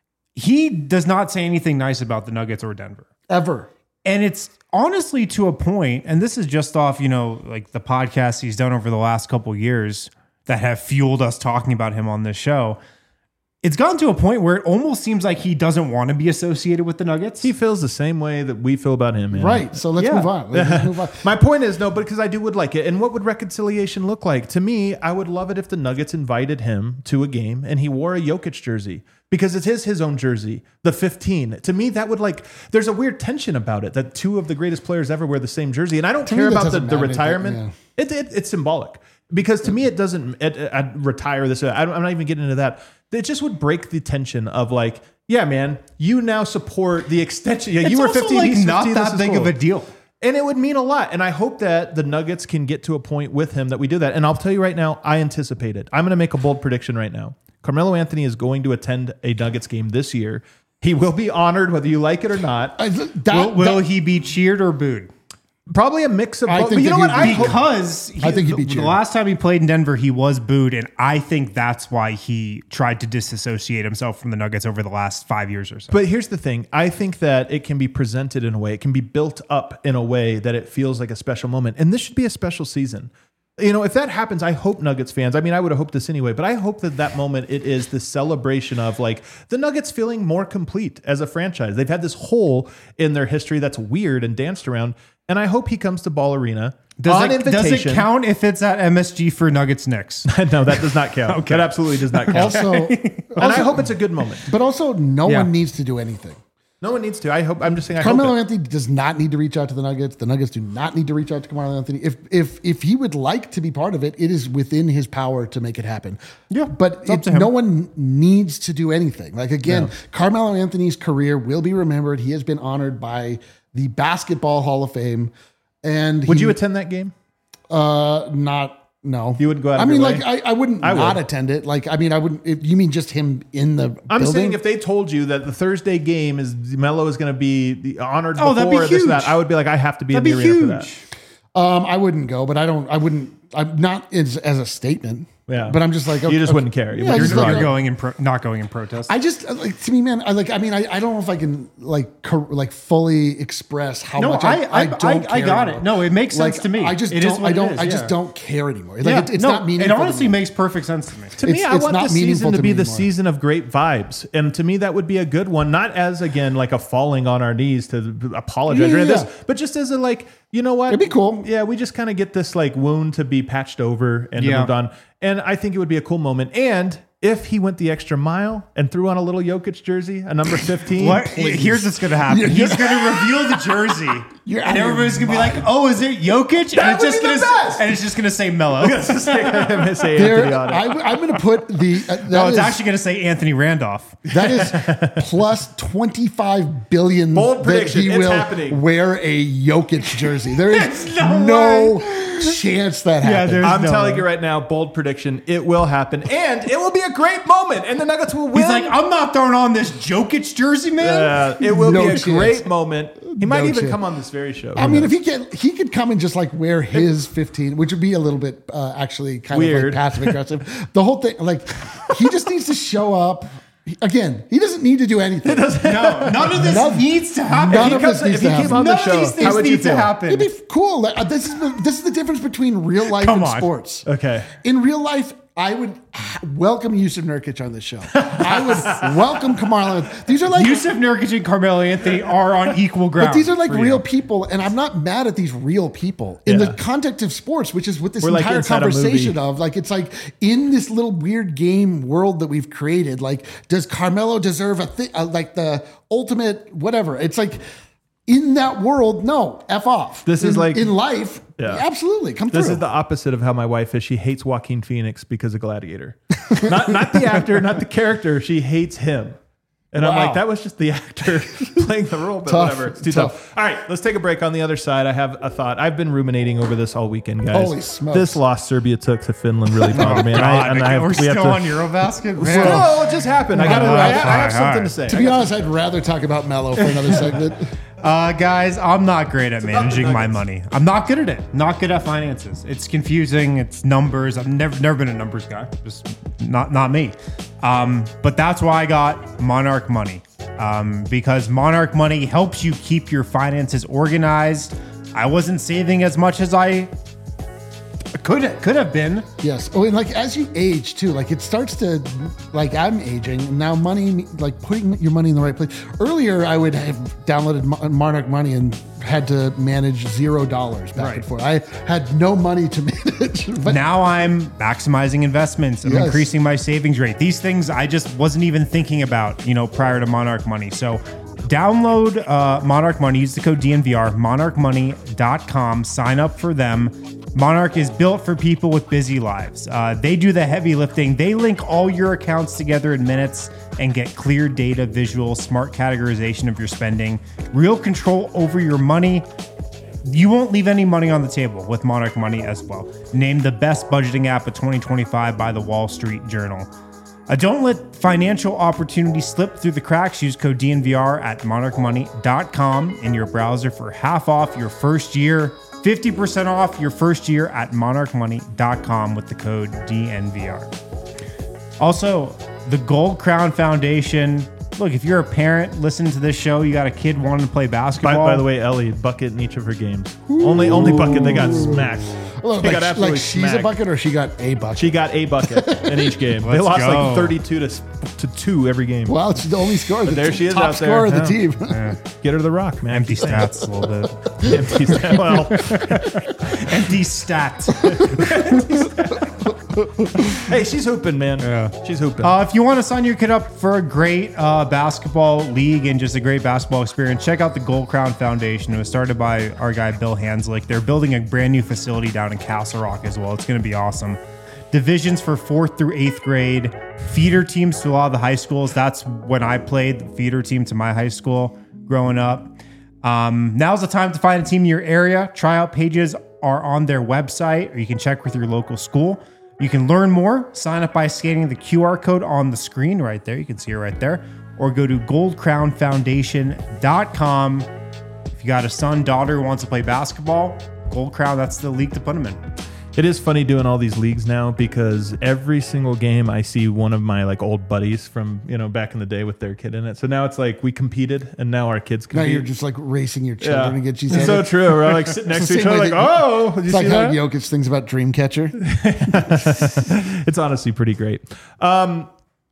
he does not say anything nice about the Nuggets or Denver. Ever. And it's honestly to a point, and this is just off, you know, like the podcasts he's done over the last couple of years that have fueled us talking about him on this show. It's gotten to a point where it almost seems like he doesn't want to be associated with the Nuggets. He feels the same way that we feel about him. Man. Right. So let's Yeah. move on. Let's move on. My point is, no, but because I do would like it. And what would reconciliation look like? To me, I would love it if the Nuggets invited him to a game and he wore a Jokic jersey because it is his own jersey, the fifteen. To me, that would like, there's a weird tension about it that two of the greatest players ever wear the same jersey. And I don't To care me, that about the, doesn't the matter, retirement. but, It, it, it's symbolic because to me, it doesn't it, it, I'd retire this. I don't, I'm not even getting into that. It just would break the tension of like, yeah, man, you now support the extension. Yeah, It's you were also, fifteen, like, he's not fifteen, that this is big cool. of a deal. And it would mean a lot. And I hope that the Nuggets can get to a point with him that we do that. And I'll tell you right now, I anticipate it. I'm going to make a bold prediction right now. Carmelo Anthony is going to attend a Nuggets game this year. He will be honored whether you like it or not. I, that, Will, will that- he be cheered or booed? Probably a mix of I both. think But you that know what? he'd I be- hope, Because he, I think he'd be the, the cheered. last time he played in Denver, he was booed, and I think that's why he tried to disassociate himself from the Nuggets over the last five years or so. But here's the thing. I think that it can be presented in a way, it can be built up in a way that it feels like a special moment. And this should be a special season. You know, if that happens, I hope Nuggets fans, I mean, I would have hoped this anyway, but I hope that that moment, it is the celebration of like the Nuggets feeling more complete as a franchise. They've had this hole in their history that's weird and danced around. And I hope he comes to Ball Arena does on it, invitation. does it count if it's at M S G for Nuggets Knicks? No, that does not count. Okay. That absolutely does not count. also, and I hope it's a good moment. but also, no Yeah. one needs to do anything. No one needs to. I hope. I'm just saying. I Carmelo hope it. Anthony does not need to reach out to the Nuggets. The Nuggets do not need to reach out to Carmelo Anthony. If if if he would like to be part of it, it is within his power to make it happen. Yeah, but it's up it, to him. no one needs to do anything. Like again, No. Carmelo Anthony's career will be remembered. He has been honored by the Basketball Hall of Fame. And Would he, you attend that game? Uh, not. No, You wouldn't go out I of mean, your like way? I, I wouldn't I would. not attend it. Like I mean, I wouldn't. If you mean just him in the I'm building? saying if they told you that the Thursday game is Melo is going to be the honored Oh, that'd be before this and that, huge. I would be like, I have to be That'd in be the arena huge. for that. Um, I wouldn't go, but I don't. I wouldn't. I'm not as as a statement. Yeah. But I'm just like, You just wouldn't care. You Yeah, I wouldn't just You're like, not going in pro- not going in protest. I just like to me, man. I like. I mean, I, I don't know if I can like cor- like fully express how No, much I, I- I, I- don't. I- I care got anymore. it. No, it makes sense Like, to me. I just It is don't. what I it don't. is, I just yeah. don't care anymore. Like yeah, it, it's no, not meaningful. It honestly to me. makes perfect sense to me. To me, It's- I it's want not this meaningful season to to be me the anymore. season of great vibes, and to me, that would be a good one. Not as again like a falling on our knees to apologize Yeah, or yeah, this, yeah. but just as a like, you know what? It'd be cool. Yeah, we just kind of get this like wound to be patched over and Yeah. moved on, and I think it would be a cool moment. And if he went the extra mile and threw on a little Jokic jersey, a number fifteen, What? please. Here's what's going to happen. You're- He's going to reveal the jersey, You're out and of your everybody's going to be like, mind. "Oh, is it Jokic?" That and it's would just be going the to best. and it's just going to say Mello. say There, Anthony on it. I, I'm going to put the. Uh, that No, it's is- actually going to say Anthony Randolph. That is plus twenty-five billion Bold that prediction. he It's will happening. wear a Jokic jersey. There is There's no no, chance that Yeah, happens. there's I'm no telling way. you right now, bold prediction. It will happen, and it will be a great moment, and the Nuggets will win. He's like, "I'm not throwing on this Jokic jersey, man." Uh, it will No be a chance. great moment. He might No even chance. come on this very show. I mean, if he can, he could come and just like wear his fifteen, which would be a little bit uh, actually kind of Weird. like passive aggressive. The whole thing, like, he just needs to show up. He- Again, he doesn't need to do anything. No, none of this None- needs to happen. none If of he this comes- needs if to he happen. came on on the the show, show, these how things would you need to feel? happen. It'd be f- cool. Like, uh, this is the, this is the difference between real life Come and on. sports. Okay. In real life, I would welcome Yusuf Nurkic on this show. I would welcome Kamar. These are like Yusuf Nurkic and Carmelo Anthony are on equal ground. But these are like for real you. people, and I'm not mad at these real people in Yeah. the context of sports, which is what this We're like entire inside a conversation movie. of. Like, it's like in this little weird game world that we've created. Like, does Carmelo deserve a thing? Uh, like the ultimate whatever? It's like in that world, no, f off. This in, is like- in life, Yeah. absolutely come This through. is the opposite of how my wife is. She hates Joaquin Phoenix because of Gladiator. not not the actor, not the character. She hates him. And I'm Wow. like, that was just the actor playing the role, but Tough. whatever. It's too tough. Tough. All right, let's take a break. On the other side, I have a thought. I've been ruminating over this all weekend, guys. Holy smokes. This loss Serbia took to Finland really bothered me. And God, I, and I have, we're we still have to, on Eurobasket. Man. No, it just happened. I got. All I, right, I have all something right. to say. to be honest, I'd rather talk about Mello for another segment. Uh, guys, I'm not great at about the managing my Nuggets. money. I'm not good at it. Not good at finances. It's confusing. It's numbers. I've never never been a numbers guy. Just not not me. Um, but that's why I got Monarch Money. Um, because Monarch Money helps you keep your finances organized. I wasn't saving as much as I could could have been. Yes. Oh, and like as you age too, like it starts to, like I'm aging and now money, like putting your money in the right place. Earlier, I would have downloaded Mo- Monarch Money and had to manage zero dollars back Right. and forth. I had no money to manage. But Now I'm maximizing investments. I'm Yes. increasing my savings rate. These things I just wasn't even thinking about, you know, prior to Monarch Money. So download uh, Monarch Money, use the code D N V R, monarch money dot com, sign up for them. Monarch is built for people with busy lives. Uh, they do the heavy lifting. They link all your accounts together in minutes and get clear data, visual, smart categorization of your spending, real control over your money. You won't leave any money on the table with Monarch Money as well. Named the best budgeting app of twenty twenty-five by the Wall Street Journal. Uh, don't let financial opportunities slip through the cracks. Use code D N V R at monarch money dot com in your browser for half off your first year. fifty percent off your first year at monarch money dot com with the code D N V R. Also, the Gold Crown Foundation. Look, if you're a parent listening to this show, you got a kid wanting to play By, basketball. by the way, Ellie bucket in each of her games. Only only bucket. They got smacked. Look, They like, got absolutely like she's a smacked. bucket or she got a bucket. She got a bucket in each game. they Let's lost go. like thirty-two to to two every game. Well, it's the only scorer. The there t- she is top out there. scorer of the Yeah. team. Get her the rock, man. empty stats a little bit. Empty stat. Well, Empty stats. hey, she's hooping, man. Yeah. She's hooping. Uh, if you want to sign your kid up for a great uh, basketball league and just a great basketball experience, check out the Gold Crown Foundation. It was started by our guy Bill Hanslick. They're building a brand new facility down in Castle Rock as well. It's going to be awesome. Divisions for fourth through eighth grade, feeder teams to a lot of the high schools. That's when I played the feeder team to my high school growing up. Um, now's the time to find a team in your area. Tryout pages are on their website, or you can check with your local school. You can learn more. Sign up by scanning the Q R code on the screen right there. You can see it right there. Or go to gold crown foundation dot com. If you got a son, daughter who wants to play basketball, Gold Crown, that's the league to put them in. It is funny doing all these leagues now because every single game I see one of my like old buddies from, you know, back in the day with their kid in it. So now it's like we competed and now our kids compete. Now you're just like racing your children Yeah. to get you. It's so true. We're like sitting next to each other like, oh, did you It's like see how that? Jokic thinks about Dreamcatcher. It's honestly pretty great. Um,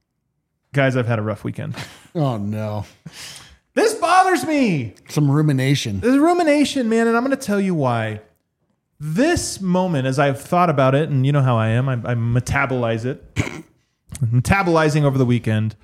guys, I've had a rough weekend. Oh no. This bothers me. Some rumination. There's rumination, man, and I'm going to tell you why. This moment, as I've thought about it, and you know how I am, I, I metabolize it. Metabolizing over the weekend.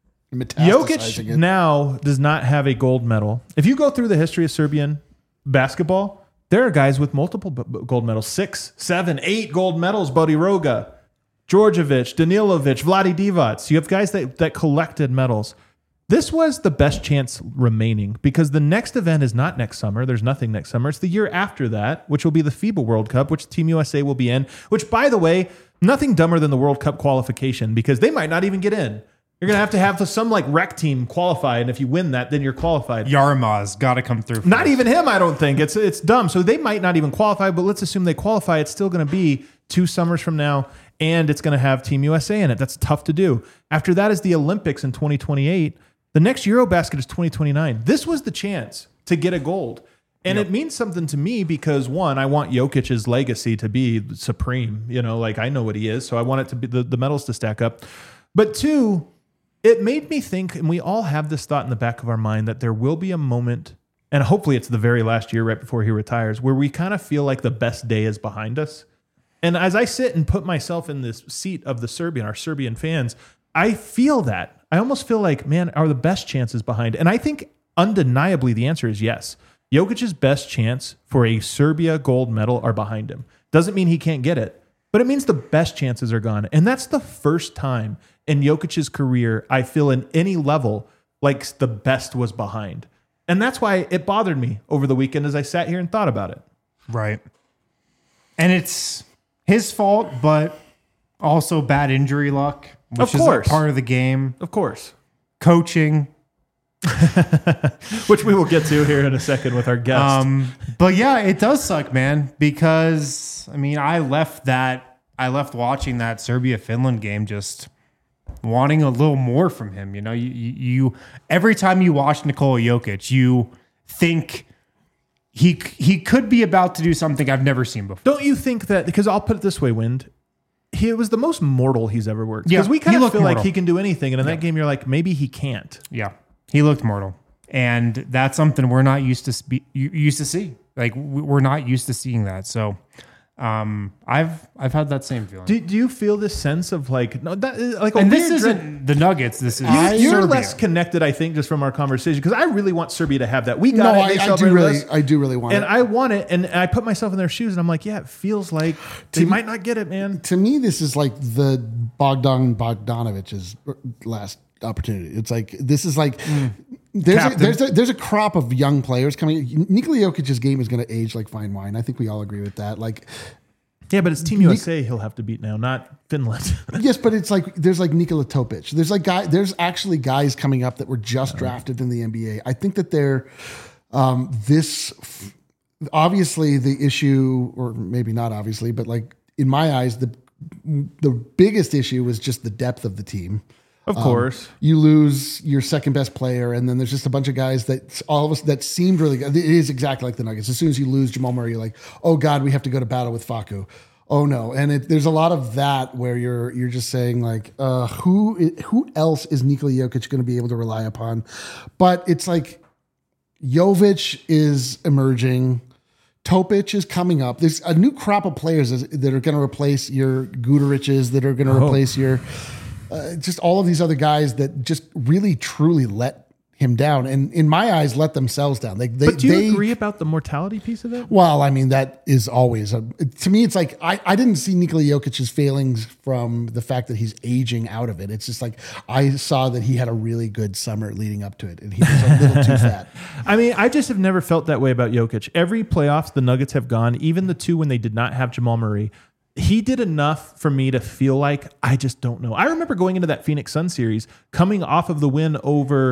Jokic Metastasizing it. now does not have a gold medal. If you go through the history of Serbian basketball, there are guys with multiple b- b- gold medals. Six, seven, eight gold medals. Bodiroga, Djordjevic, Danilovic, Vlade Divac. You have guys that, that collected medals. This was the best chance remaining because the next event is not next summer. There's nothing next summer. It's the year after that, which will be the FIBA World Cup, which Team U S A will be in, which, by the way, nothing dumber than the World Cup qualification because they might not even get in. You're going to have to have some like rec team qualify, and if you win that, then you're qualified. Yarmaz got to come through. Not even him, I don't think. It's it's dumb. So they might not even qualify, but let's assume they qualify. It's still going to be two summers from now, and it's going to have Team U S A in it. That's tough to do. After that is the Olympics in twenty twenty-eight. The next Eurobasket is twenty twenty-nine. This was the chance to get a gold. And yep. It means something to me because, one, I want Jokic's legacy to be supreme. You know, like I know what he is, so I want it to be the, the medals to stack up. But two, it made me think, and we all have this thought in the back of our mind, that there will be a moment, and hopefully it's the very last year right before he retires, where we kind of feel like the best day is behind us. And as I sit and put myself in this seat of the Serbian, our Serbian fans, I feel that. I almost feel like, man, are the best chances behind? And I think undeniably the answer is yes. Jokic's best chance for a Serbia gold medal are behind him. Doesn't mean he can't get it, but it means the best chances are gone. And that's the first time in Jokic's career I feel in any level like the best was behind. And that's why it bothered me over the weekend as I sat here and thought about it. Right. And it's his fault, but also bad injury luck. Which of course. Is a part of the game. Of course. Coaching. Which we will get to here in a second with our guest. Um, but yeah, it does suck, man, because, I mean, I left that, I left watching that Serbia-Finland game just wanting a little more from him. You know, you, you, you every time you watch Nikola Jokic, you think he he could be about to do something I've never seen before. Don't you think that, because I'll put it this way, Wind, he was the most mortal he's ever worked. Because Yeah, we kind he of looked feel mortal. like he can do anything. And in Yeah. that game, you're like, maybe he can't. Yeah, he looked mortal, and that's something we're not used to spe- used to see. Like we- we're not used to seeing that. So um, I've I've had that same feeling. Do, do you feel this sense of like, no, that, like a and this weird isn't dread- the Nuggets. This is You, you're Serbia. less connected, I think, just from our conversation, because I really want Serbia to have that. We got No, it. I, They I do celebrated really, us. I do really want And it. I want it, and I put myself in their shoes, and I'm like, yeah, it feels like they To- might not get it, man. To me, this is like the Bogdan Bogdanovic's last opportunity. It's like this is like there's a, Captain. there's a, there's a crop of young players coming. Nikola Jokic's game is going to age like fine wine. I think we all agree with that. Like, Yeah, but it's Team U S A he'll have to beat now, not Finland. yes, but it's like there's like Nikola Topic. There's like guy. There's actually guys coming up that were just drafted in the N B A. I think that they're um, this. Obviously, the issue, or maybe not obviously, but like in my eyes, the the biggest issue was just the depth of the team. Of Um, course. you lose your second best player, and then there's just a bunch of guys that all of us that seemed really good. It is exactly like the Nuggets. As soon as you lose Jamal Murray, you're like, oh God, we have to go to battle with Facu. Oh no. And it, there's a lot of that where you're you're just saying like, uh, who who else is Nikola Jokic going to be able to rely upon? But it's like Jovic is emerging. Topic is coming up. There's a new crop of players that are going to replace your Guderiches, that are going to Oh. replace your uh, just all of these other guys that just really truly let him down, and in my eyes, let themselves down. They, they, But do you they, agree about the mortality piece of it? Well, I mean, that is always a, to me. It's like I, I didn't see Nikola Jokic's failings from the fact that he's aging out of it. It's just like I saw that he had a really good summer leading up to it, and he was a little too fat. I mean, I just have never felt that way about Jokic. Every playoffs the Nuggets have gone, even the two when they did not have Jamal Murray, he did enough for me to feel like I just don't know. I remember going into that Phoenix Sun series, coming off of the win over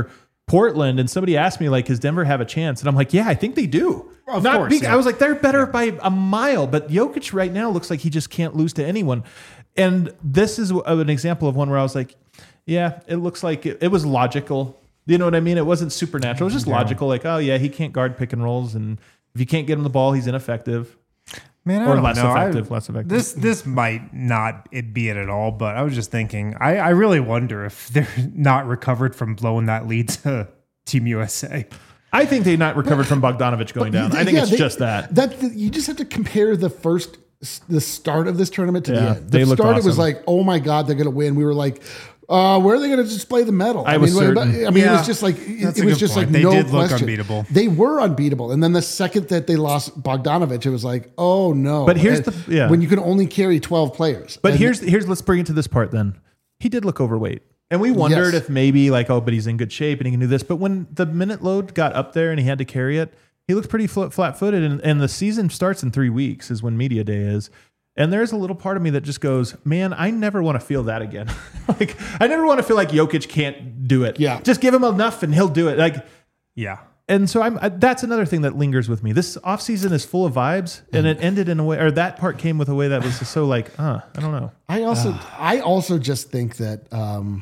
Portland, and somebody asked me, like, does Denver have a chance? And I'm like, yeah, I think they do. Of Not course, big, yeah. I was like, they're better by a mile, but Jokic right now looks like he just can't lose to anyone. And this is an example of one where I was like, yeah, it looks like it, it was logical. You know what I mean? It wasn't supernatural. It was just Yeah. logical. Like, oh yeah, he can't guard pick and rolls, and if you can't get him the ball, he's ineffective. Man, I Or don't less know. effective, I- less effective. This this might not it be it at all, but I was just thinking, I, I really wonder if they're not recovered from blowing that lead to Team U S A. I think they not recovered from Bogdanovich going down. I think Yeah, it's they- just that. That you just have to compare the first, the start of this tournament to Yeah, the end. The they looked start, it was awesome. like, oh my god, they're going to win. We were like, uh, where are they going to display the medal? I was mean, certain. I mean, it Yeah, was just like it, that's it a was good just point. like They no did look question. unbeatable. They were unbeatable, and then the second that they lost Bogdanovich, it was like, oh no. But here's And the- yeah. when you can only carry twelve players. But And- here's here's let's bring it to this part then. He did look overweight. And we wondered Yes. if maybe like, oh, but he's in good shape and he can do this. But when the minute load got up there and he had to carry it, he looked pretty flat footed. And, and the season starts in three weeks is when media day is. And there's a little part of me that just goes, man, I never want to feel that again. Like, I never want to feel like Jokic can't do it. Yeah. Just give him enough and he'll do it. Like, Yeah. and so I'm I, that's another thing that lingers with me. This offseason is full of vibes, and it ended in a way, or that part came with a way that was just so like, uh, I don't know. I also I also just think that um,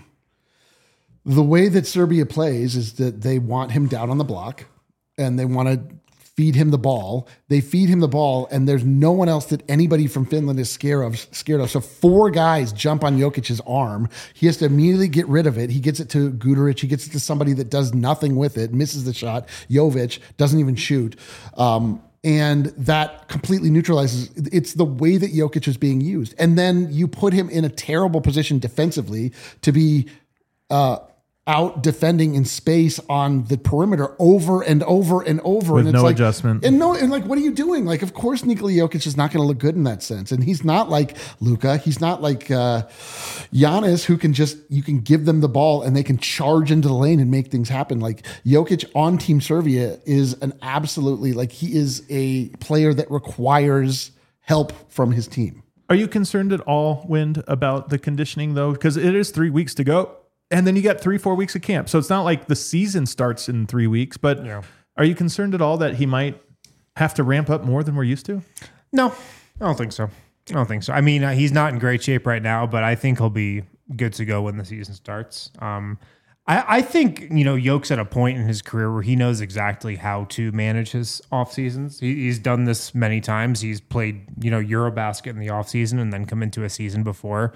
the way that Serbia plays is that they want him down on the block and they want to feed him the ball. They feed him the ball, and there's no one else that anybody from Finland is scared of. Scared of. So four guys jump on Jokic's arm. He has to immediately get rid of it. He gets it to Guduric. He gets it to somebody that does nothing with it, misses the shot. Jovic doesn't even shoot. Um, and that completely neutralizes. It's the way that Jokic is being used. And then you put him in a terrible position defensively to be uh, out defending in space on the perimeter over and over and over. With and it's no like, adjustment. And no, and like, what are you doing? Like, of course, Nikola Jokic is not going to look good in that sense. And he's not like Luka. He's not like uh, Giannis, who can just, you can give them the ball and they can charge into the lane and make things happen. Like Jokic on Team Serbia is an absolutely, like, he is a player that requires help from his team. Are you concerned at all, Wind, about the conditioning though? Because it is three weeks to go. And then you got three, four weeks of camp. So it's not like the season starts in three weeks, but Yeah. are you concerned at all that he might have to ramp up more than we're used to? No, I don't think so. I don't think so. I mean, uh, he's not in great shape right now, but I think he'll be good to go when the season starts. Um, I, I think, you know, Yoke's at a point in his career where he knows exactly how to manage his off seasons. He, he's done this many times. He's played, you know, Eurobasket in the off season and then come into a season before.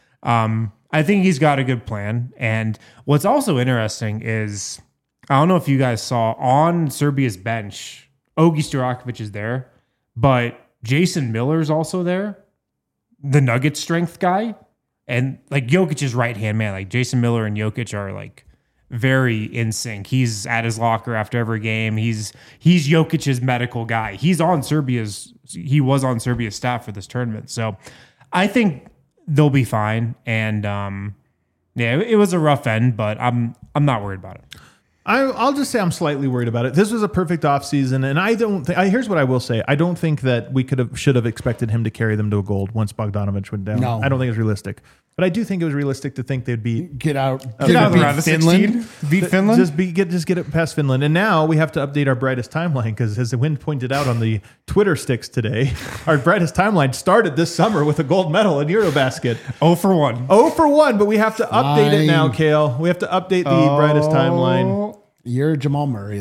Um, I think he's got a good plan. And what's also interesting is, I don't know if you guys saw on Serbia's bench, Ogi Stojakovic is there, but Jason Miller's also there, the Nuggets strength guy. And like Jokic's right-hand man, like Jason Miller and Jokic are like very in sync. He's at his locker after every game. He's he's Jokic's medical guy. He's on Serbia's, he was on Serbia's staff for this tournament. So I think they'll be fine. And um, yeah, it, it was a rough end, but I'm I'm not worried about it. I, I'll just say I'm slightly worried about it. This was a perfect offseason, and I don't think. I, here's what I will say: I don't think that we could have should have expected him to carry them to a gold once Bogdanovich went down. No. I don't think it's realistic, but I do think it was realistic to think they'd be Get out. Get out of the beat round of Finland. sixteen. Beat Finland. just be get just get it past Finland. And now we have to update our brightest timeline because, as the Wind pointed out on the Twitter sticks today, our brightest timeline started this summer with a gold medal in Eurobasket. oh for one. Oh for one, but we have to update it now, Fine. Kale. We have to update the brightest timeline. You're Jamal Murray.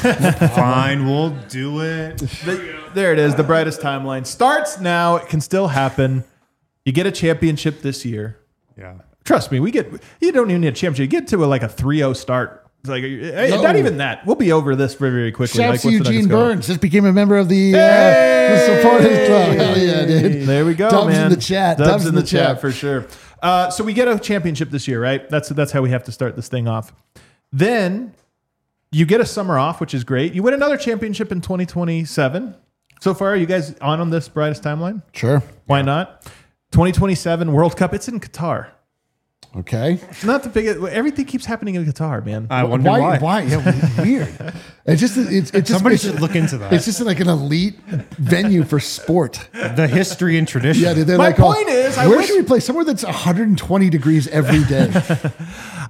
Fine, we'll do it. The- there it is. The brightest timeline starts now. It can still happen. You get a championship this year. Yeah. Trust me, we get. You don't even need a championship. You get to a, like a three oh start. It's like hey, No. not even that. We'll be over this very very quickly. Shouts like, to once the Eugene Nuggets go. Burns. Just became a member of the, uh, the supporters club. Hell yeah, dude. There we go, Dubs man. in the chat. Dubs, in the, chat. for sure. Uh, so we get a championship this year, right? That's that's how we have to start this thing off. Then you get a summer off, which is great. You win another championship in twenty twenty-seven. So far, are you guys on on this brightest timeline? Sure. Why not? twenty twenty-seven World Cup. It's in Qatar. Okay. Not the biggest. Everything keeps happening in Qatar, man. I wonder why. Why? Why? Yeah, weird. It's just. It's, it's just. Somebody it's, should look into that. It's just like an elite venue for sport. The history and tradition. Yeah, dude, they're My like, oh, point is, I where wish- should we play? Somewhere that's one hundred twenty degrees every day.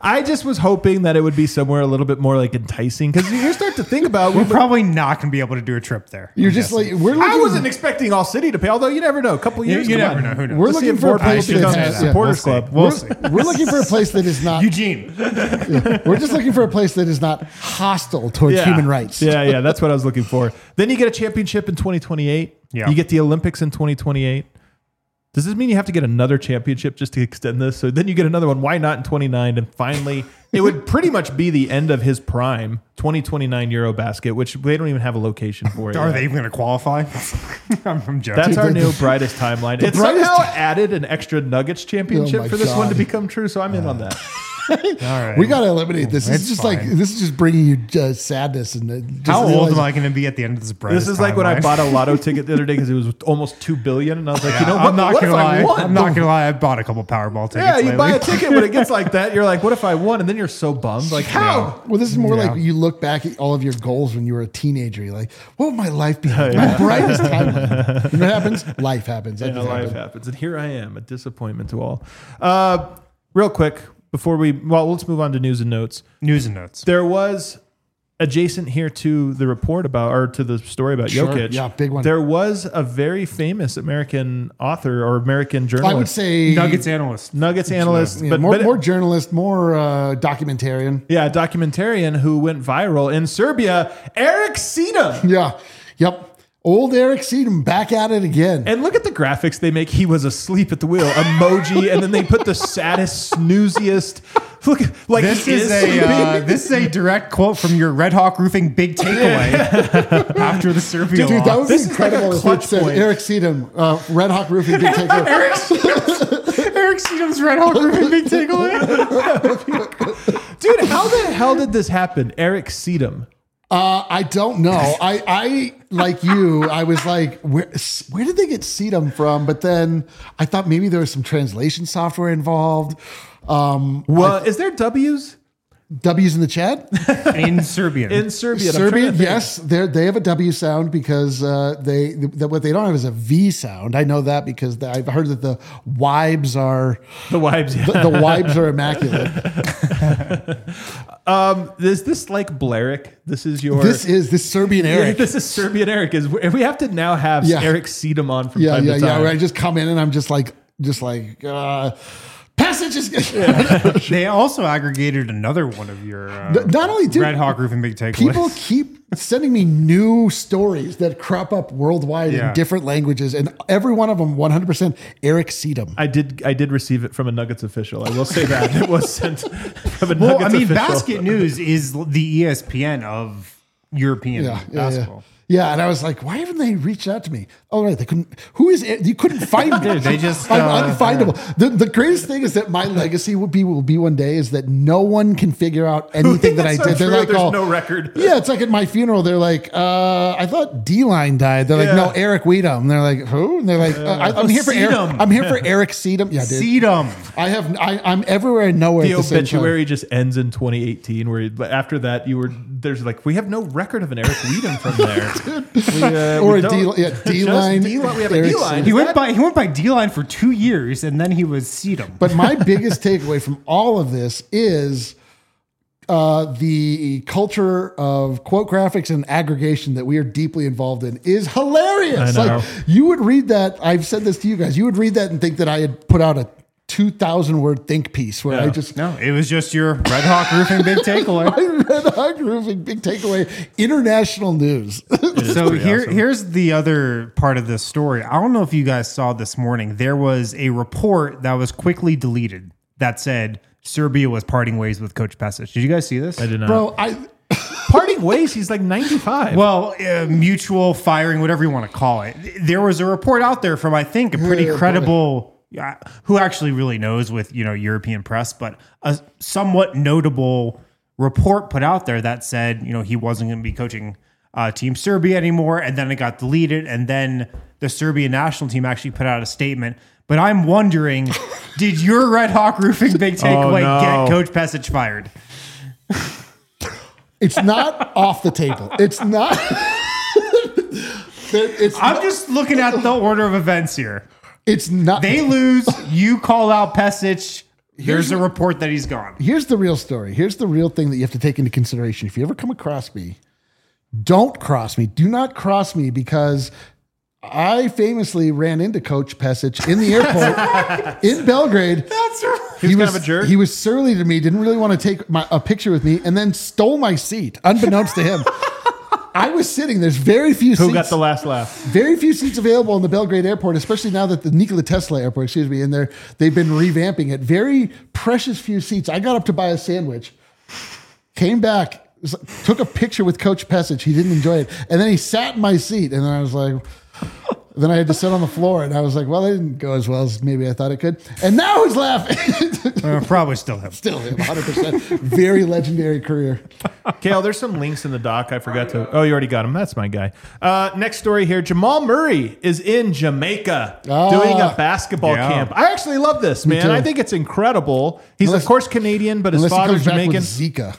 I just was hoping that it would be somewhere a little bit more like enticing because you start to think about We're probably not going to be able to do a trip there. You're I'm just guessing. like we're looking. I wasn't expecting All City to pay, although you never know. A couple You- years, you come never on. know. Who knows? We're Let's see looking if for a Ford place that becomes has a supporters we'll see. club. We'll We're, see. we're looking for a place that is not. Eugene. We're just looking for a place that is not hostile towards Yeah. human rights. Yeah, yeah, that's what I was looking for. Then you get a championship in twenty twenty-eight. Yeah. You get the Olympics in twenty twenty-eight. Does this mean you have to get another championship just to extend this? So then you get another one. Why not in twenty-nine? And finally, it would pretty much be the end of his prime, twenty twenty-nine Eurobasket, which they don't even have a location for it. Are yet. they even going to qualify? I'm, I'm joking. That's our the- new brightest timeline. It brightest- somehow added an extra Nuggets championship Oh my for this one to God. become true, so I'm in on that. All right. We got to eliminate this. This It's is just fine. like this is just bringing you uh, sadness and uh, just How old realizing- am I going to be at the end of this brightest This is like when I timeline? bought a lotto ticket the other day because it was almost two billion, and I was like, you know what? I'm not what gonna if I lie. won? I'm not gonna lie. I bought a couple Powerball tickets. Yeah, you lately. buy a ticket when it gets like that. You're like, what if I won? And then you're so bummed. Like, how? Well, this is more Yeah. like you look back at all of your goals when you were a teenager. You're like, what would my life be? Like? My brightest timeline. You know what happens? Life happens. That Yeah, just life happened. happens. And here I am, a disappointment to all. Uh, real quick, before we, well, let's move on to news and notes. News and notes. There was adjacent here to the report about, or to the story about Sure. Jokic. Yeah, big one. There was a very famous American author or American journalist. I would say Nuggets analyst. Nuggets analyst, yeah, but, more, but more journalist, more uh, documentarian. yeah, documentarian who went viral in Serbia, Eric Sedum. Yeah. Yep. Old Eric Sedum back at it again. And look at the graphics they make. He was asleep at the wheel. Emoji, and then they put the saddest, snooziest. Look, like This he is a sleeping. uh, this is a direct quote from your Red Hawk Roofing big takeaway after the Serbia Dude, that loss. would This be is like a incredible if clutch it said point. Eric Sedum, uh, Red Hawk Roofing big takeover. Eric Sedum's Red Hawk Roofing big takeaway. Dude, how the hell did this happen? Eric Sedum. Uh, I don't know. I, I like you. I was like, where, where did they get Sedum from? But then I thought maybe there was some translation software involved. Um, Well, is there W's W's in the chat. In Serbian. in Serbia? I'm trying to Serbian, think. yes, they they have a W sound because uh, they the, what they don't have is a V sound. I know that because the, I've heard that the Wibes are The wives. Yeah. the, the Wibes are immaculate. Um, is this like Blarick? This is your. This is this Serbian Eric. This is Serbian Eric. Is we have to now have Yeah. Eric Sedum on from Yeah, time yeah, to yeah. time. Where I just come in and I'm just like, just like, uh, passage is. They also aggregated another one of your uh, Not only do Red Hawk Roofing big takeaways. people keep sending me new stories that crop up worldwide Yeah. in different languages, and every one of them one hundred percent Eric Sedum. I did. I did receive it from a Nuggets official. I will say that it was sent from a Well, I Nuggets mean, official. Basket News is the E S P N of European Yeah, yeah, basketball. yeah. Yeah, and I was like, why haven't they reached out to me? Oh, right, they couldn't. Who is it? You couldn't find me. Dude, they just, I'm uh, unfindable. The, the greatest thing is that my legacy will be will be one day is that no one can figure out anything that I That's did. not They're true. like, There's oh, no record. Yeah, it's like at my funeral. They're like, uh, I thought D-Line died. They're like, Yeah. no, Eric Weedham. They're like, who? And they're like, uh, I, I'm here for Eric. Sedum. I'm here for Eric Sedum. Yeah, dude. Sedum. I have. I, I'm everywhere and nowhere. The at the same time. obituary just ends in twenty eighteen. Where but after that, you were there's like we have no record of an Eric Weedham from there. We, uh, Or we a don't- D- yeah, just D-line, D-line. We have a Eric D-line. Sedum. He Is went that- by he went by D line for two years, and then he was Sedum. But my biggest takeaway from all of this is uh, the culture of quote graphics and aggregation that we are deeply involved in is hilarious. I know. Like you would read that. I've said this to you guys. You would read that and think that I had put out a two thousand word think piece where I Yeah. just no, it was just your Red Hawk Roofing big takeaway. I read Hog Roofing big takeaway international news. So pretty here, awesome. here's the other part of this story. I don't know if you guys saw this morning. There was a report that was quickly deleted that said Serbia was parting ways with Coach Pesic. Did you guys see this? I did not. Bro, I Parting ways. He's like ninety-five. Well, uh, mutual firing, whatever you want to call it. There was a report out there from, I think, a pretty Yeah, credible, uh, who actually really knows with, you know, European press, but a somewhat notable report put out there that said, you know, he wasn't going to be coaching uh, Team Serbia anymore. And then it got deleted. And then the Serbian national team actually put out a statement. But I'm wondering, did your Red Hawk Roofing big takeaway no. get Coach Pesic fired? it's not off the table. It's not. it's I'm just looking at the order of events here. it's not. They lose, you call out Pesic, There's a report that he's gone. Here's the real story. Here's the real thing that you have to take into consideration. If you ever come across me, don't cross me. Do not cross me because I famously ran into Coach Pesic in the airport in Belgrade. That's right. He was, kind of a jerk. He was surly to me, didn't really want to take my, a picture with me, and then stole my seat, unbeknownst to him. I was sitting, there's very few Who seats. got the last laugh? Very few seats available in the Belgrade airport, especially now that the Nikola Tesla airport, excuse me, in there, they've been revamping it. Very precious few seats. I got up to buy a sandwich, came back, took a picture with Coach Pesic. He didn't enjoy it. And then he sat in my seat, and then I was like, then I had to sit on the floor, and I was like, well, it didn't go as well as maybe I thought it could. And now he's laughing. Uh, probably still him. Still him, one hundred percent. Very legendary career. Kale, there's some links in the doc. I forgot to. Oh, you already got him. That's my guy. Uh, next story here. Jamal Murray is in Jamaica Ah. doing a basketball Yeah. camp. I actually love this, man. too. I think it's incredible. He's, Unless- of course, Canadian, but his Unless he father's comes back Jamaican. with Zika.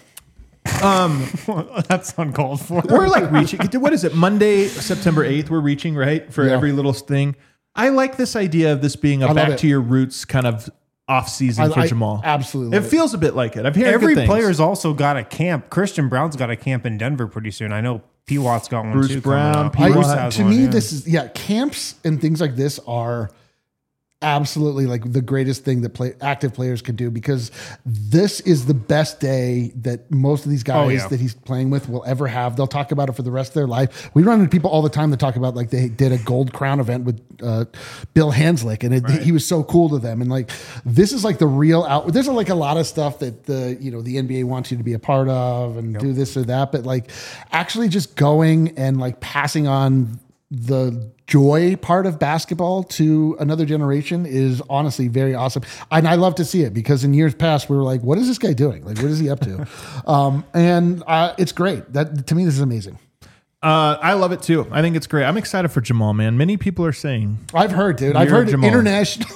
That's uncalled for. We're like reaching. What is it? Monday, September eighth, we're reaching, right? For Yeah. every little thing. I like this idea of this being a love back it. to your roots kind of off season I- for I Jamal. absolutely It love it. feels a bit like it. I've heard Every good things. player's also got a camp. Christian Brown's got a camp in Denver pretty soon. I know P. Watt's got one Bruce too. Brown, coming up. P. I, Bruce Watt. has to one, me, yeah. this is yeah. Camps and things like this are absolutely like the greatest thing that play active players can do because this is the best day that most of these guys Oh, yeah. that he's playing with will ever have. They'll talk about it for the rest of their life. We run into people all the time that talk about like they did a Gold Crown event with uh, Bill Hanslick and it, he was so cool to them. And like this is like the real out. There's like a lot of stuff that the you know the N B A wants you to be a part of and do this or that, but like actually just going and like passing on the joy part of basketball to another generation is honestly very awesome. And I love to see it because in years past, we were like, what is this guy doing? Like, what is he up to? um, and uh, it's great. That to me, this is amazing. Uh, I love it too. I think it's great. I'm excited for Jamal, man. Many people are saying I've heard, dude. I've You're heard Jamal. international.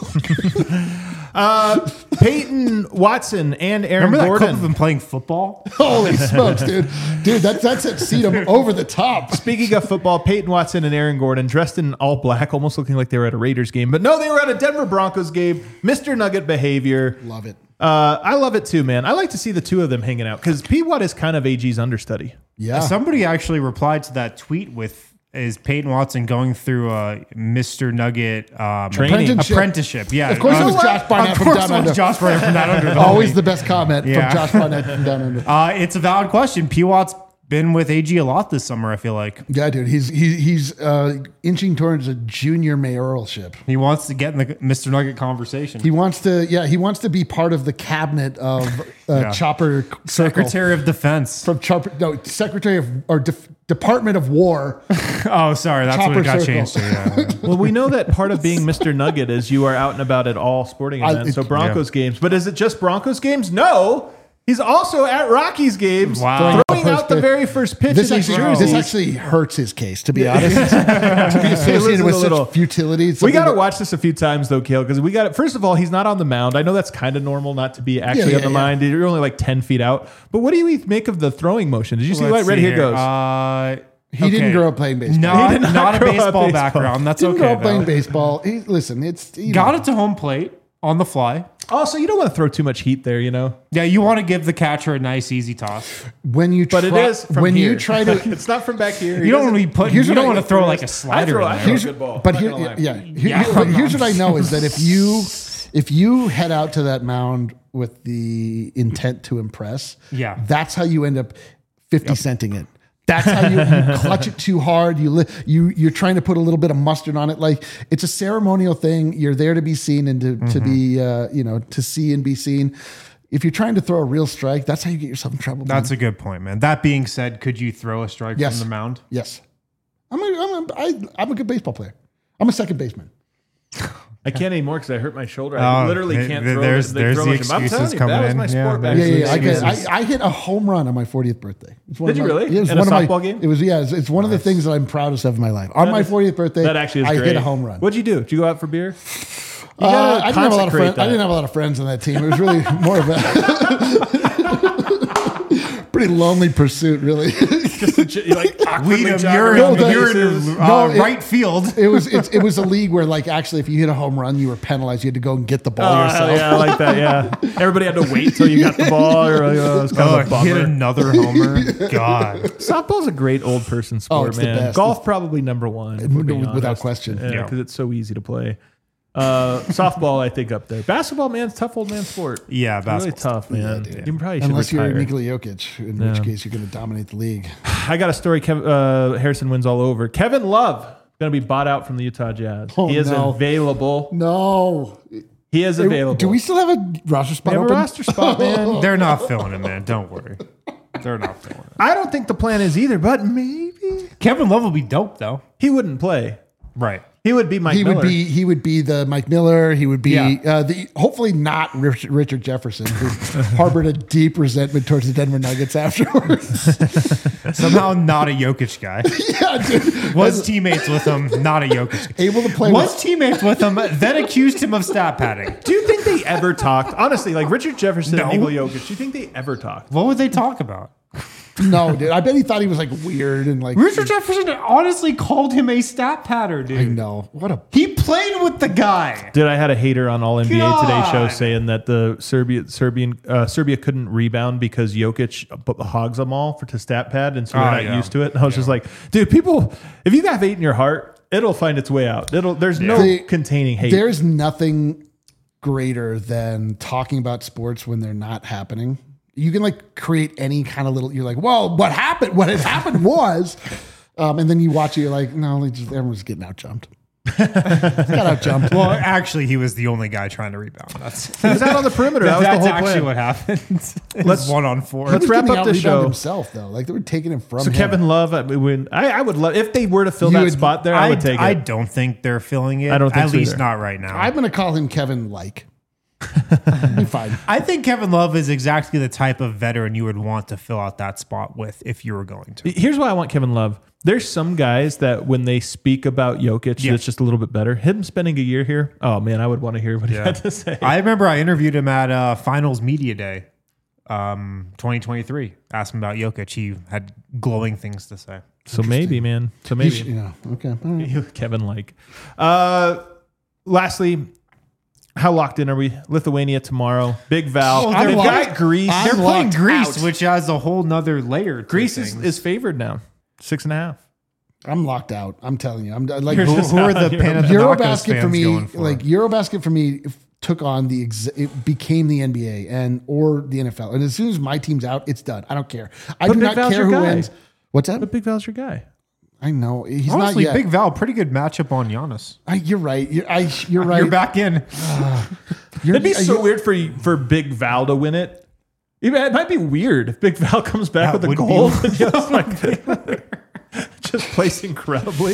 uh, Peyton Watson and Aaron Remember that clip Gordon. of him playing football? Holy smokes, dude. Dude, that's that's at Sedum over the top. Speaking of football, Peyton Watson and Aaron Gordon dressed in all black, almost looking like they were at a Raiders game. But no, they were at a Denver Broncos game. Mister Nugget behavior. Love it. Uh, I love it too, man. I like to see the two of them hanging out because P. Watt is kind of A G's understudy. Yeah. Somebody actually replied to that tweet with is Peyton Watson going through a Mister Nugget um, Training. Apprenticeship. apprenticeship? Yeah, Of course it Uh, was Josh Barnett Of from course Down it Under. was Josh Barnett from Down Under. the Always homie. the best comment Yeah. from Josh Barnett from Down Under. Uh, it's a valid question. P. Watt's been with A G a lot this summer. I feel like Yeah, dude. He's he, he's uh, inching towards a junior mayoralship. he wants to get in the Mister Nugget conversation. He wants to, yeah, he wants to be part of the cabinet of uh, Yeah. Chopper Circle. Secretary of Defense. From Chopper, no, Secretary of or Def, Department of War. Oh, sorry, that's Chopper what it got Circle. changed to. Yeah. Well, we know that part of being Mister Nugget is you are out and about at all sporting I- events. so it- Broncos games. But is it just Broncos games? No. He's also at Rockies games, Wow. throwing First out the pitch. very first pitch This in these actually, jerseys. this actually hurts his case, to be honest. to be associated a with little- such futility. We something got to that- watch this a few times though, Kale, because we got it. First of all, he's not on the mound. I know that's kind of normal not to be actually yeah, on the yeah. mound. You're only like ten feet out. But what do you make of the throwing motion? Did you see Let's what right see here goes? Uh, He didn't okay. grow up playing baseball. Not, He did not not a grow up baseball, baseball. background. That's Didn't okay. grow up playing though. baseball. He, listen, it's you Got know, it to home plate on the fly. Also, you don't want to throw too much heat there, you know. Yeah, you want to give the catcher a nice, easy toss. when you But try, it is from when here. you try to. it's not from back here. You don't want to be put. You Here's what don't I- want to throw like a slider throw- in I there. throw- Here's, good ball. but Not here, gonna lie. yeah, here- Yeah. but here's what I know is that if you if you head out to that mound with the intent to impress, Yeah. that's how you end up fifty centing it. That's how you, you clutch it too hard. You li- you you're trying to put a little bit of mustard on it. Like it's a ceremonial thing. You're there to be seen and to, to be uh, you know to see and be seen. If you're trying to throw a real strike, that's how you get yourself in trouble. man. That's a good point, man. That being said, could you throw a strike Yes. from the mound? yes. I'm a, I'm a, I, I'm a good baseball player. I'm a second baseman. I can't anymore because I hurt my shoulder. I Oh, literally th- can't th- throw. there's- the, there's throw the motion. I'm telling excuses you, coming that was in. my Yeah, sport back there's Yeah, then. yeah, yeah. I, get, excuses. I, I hit a home run on my fortieth birthday. It's one Did of you my- really? Yeah, it was In a one of my- softball game? It was yeah. It's, it's one of the things that I'm proudest of in my life. On my is- fortieth birthday, That actually is I great. hit a home run. What'd you do? Did you go out for beer? You Uh, gotta I didn't have a lot of consecrate friends. I that. didn't have a lot of friends on that team. It was really more of a pretty lonely pursuit, really. Just to, j- like awkwardly Weedham, jog you're, around in, the you're bases. in uh, No, it- right field. It was it, it was a league where like actually if you hit a home run you were penalized. You had to go and get the ball Oh, yourself. hell yeah, I like that. Yeah, everybody had to wait till you got the ball. Or like, oh, it was kind Oh, of a hit bummer. another homer. God. Softball's a great old person sport, it's the man. best. Golf probably number one, if we're being Without honest. question. Yeah, Yeah. because it's so easy to play. Uh, softball, I think, up there. Basketball, man, it's a tough old man sport. Yeah, It's really basketball. tough, man. dude. you probably should Unless retire. you're Nikola Jokic, in Yeah. which case you're going to dominate the league. I got a story. Kev, uh, Harrison wins all over. Kevin Love going to be bought out from the Utah Jazz. Oh, he is no. available. No. He is available. Do we still have a roster spot We have a open? roster spot, man? They're not filling it, man. Don't worry. They're not filling it. I don't think the plan is either, but maybe Kevin Love will be dope, though. he wouldn't play. Right. He would be Mike He Miller. would be he would be the Mike Miller. He would be Yeah. uh, the hopefully not Rich, Richard Jefferson, who harbored a deep resentment towards the Denver Nuggets afterwards. Somehow not a Jokic guy. yeah, dude. Was teammates with him, not a Jokic guy. Able to play Was with, teammates with him, then accused him of stat padding. Do you think they ever talked? Honestly, like Richard Jefferson No. and Nikola Jokic, do you think they ever talked? What would they talk about? no, dude. I bet he thought he was like weird and like Richard Jefferson honestly called him a stat padder, dude. I know. What a He played with the guy. Dude, I had a hater on All N B A Today show God. saying that the Serbia Serbian uh, Serbia couldn't rebound because Jokic b- hogs them all for to stat pad, and so they're Oh, not yeah. used to it. And I was just like, dude, people, if you have hate in your heart, it'll find its way out. It'll there's no They- containing hate. There's nothing greater than talking about sports when they're not happening. You can like create any kind of little. You're like, well, what happened? What had happened was, um, and then you watch it. You're like, no, they just, everyone's getting out jumped. Got out jumped. Well, actually, he was the only guy trying to rebound. That's, He was out on the perimeter. That was the that's whole actually plan. what happened. Let's- Let's one on four. let's He was wrap getting up the out-rebounded show. himself though. Like they were taking him from So him. Kevin Love, I, would, I, I would love if they were to fill You that would- spot there. I, would take it. I don't think they're filling it. I don't think At so least either. not right now. I'm going to call him Kevin like. Be fine. I think Kevin Love is exactly the type of veteran you would want to fill out that spot with if you were going to. Here's why I want Kevin Love. There's some guys that when they speak about Jokic, Yeah. it's just a little bit better. Him spending a year here, oh man, I would want to hear what he had to say. I remember I interviewed him at uh, Finals Media Day, um, twenty twenty-three. Asked him about Jokic. He had glowing things to say. so maybe, man. So He maybe sh- yeah. Okay. All right. Kevin like. Uh, lastly, how locked in are we? Lithuania tomorrow. Big Val. Oh, They've they're got locked- Greece. I'm They're playing locked Greece, out. which has a whole nother layer. To Greece is, things. is favored now. Six and a half. I'm locked out. I'm telling you. I'm like You're who, just who are not the on Panathinaikos Eurobasket fans for me, going for? like Eurobasket for me, f- took on the ex- it became the N B A and or the N F L. And as soon as my team's out, it's done. I don't care. I But do Big not Val's care your who guy. wins. What's that? But Big Val's your guy. I know he's Honestly, not yet. Big Val, pretty good matchup on Giannis. I, you're right. You're, I, you're right. You're back in. You're, It'd be so you're- weird for for Big Val to win it. Even- It might be weird if Big Val comes back That with a would be gold and just like just plays incredibly.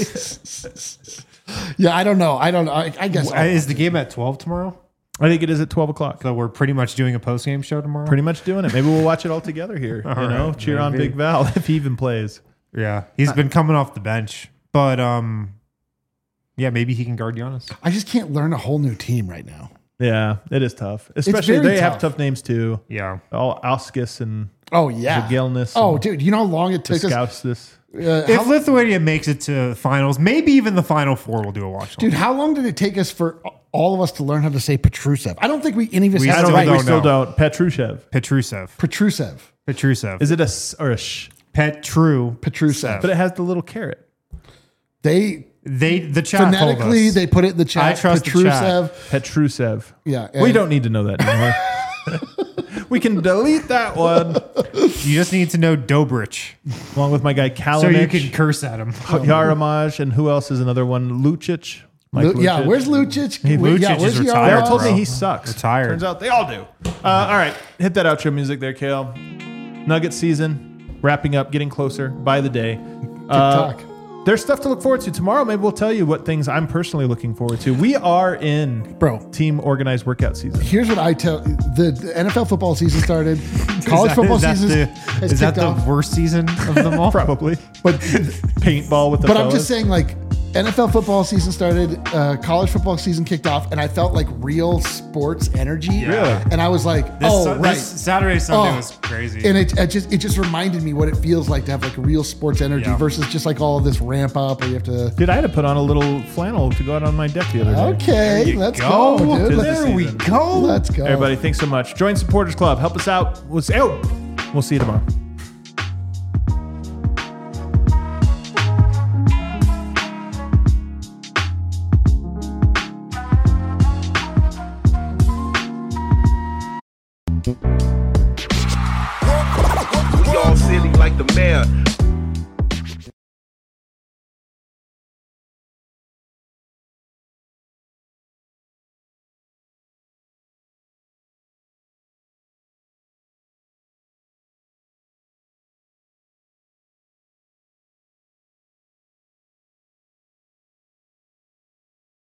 Yeah, I don't know. I don't know. I, I guess. Uh, Is the game at twelve tomorrow? I think it is at twelve o'clock. So we're pretty much doing a post game show tomorrow. Pretty much doing it. Maybe we'll watch it all together here. you All know, right, cheer on maybe. Big Val if he even plays. Yeah, he's been coming off the bench, but um, yeah, maybe he can guard Giannis. I just can't learn a whole new team right now. Yeah, it is tough. Especially very they have tough. tough names too. Yeah, All Alskis and Oh yeah. Zagalnis Oh, and dude, you know how long it took us? Skaustis. Uh, if how, Lithuania makes it to finals, maybe even the final four, we'll do a watch. dude, how long did it take us for all of us to learn how to say Petrusev? I don't think we any of us We had I it don't still right. think we don't still know. don't. Petrushev. Petrusev. Petrusev. Petrusev. Is it a s or a sh? Petru? Petrusev. But it has the little carrot. They They the chat told phonetically us. they put it in the chat. I trust the chat. Petrusev. Petrusev. Yeah, We and- don't need to know that anymore. We can delete that one You just need to know Dobrich, along with my guy Kalinic, so you can curse at him. Yaramaj, and who else is another one? Lucic. Mike Lu- yeah, Lucic. where's Lucic? He- Wait, yeah, Lucic where's is the retired, They other- all told bro. me he sucks. Retired. Turns out they all do. Uh, all right, hit that outro music there, Kale. Nugget season wrapping up, getting closer by the day. Uh, TikTok. there's stuff to look forward to tomorrow. Maybe we'll tell you what things I'm personally looking forward to. We are in Bro. team organized workout season. Here's what I tell the, the N F L football season started. College Is that- football is that season the, has is that kicked the off. worst season of them all? Probably But paintball with the but fellas. I'm just saying, like N F L football season started, uh, college football season kicked off, and I felt like real sports energy. Yeah. And I was like, This, oh, Su- right. this Saturday, Sunday Oh. was crazy. And it, it just it just reminded me what it feels like to have like real sports energy Yeah. versus just like all of this ramp up where you have to. Dude, I had to put on a little flannel to go out on my deck the other day. Okay, you let's go. go, dude. Tis the Let's, there we season. go. let's go. Everybody, thanks so much. Join Supporters Club. Help us out. We'll see, oh, we'll see you tomorrow. We all silly like the mayor.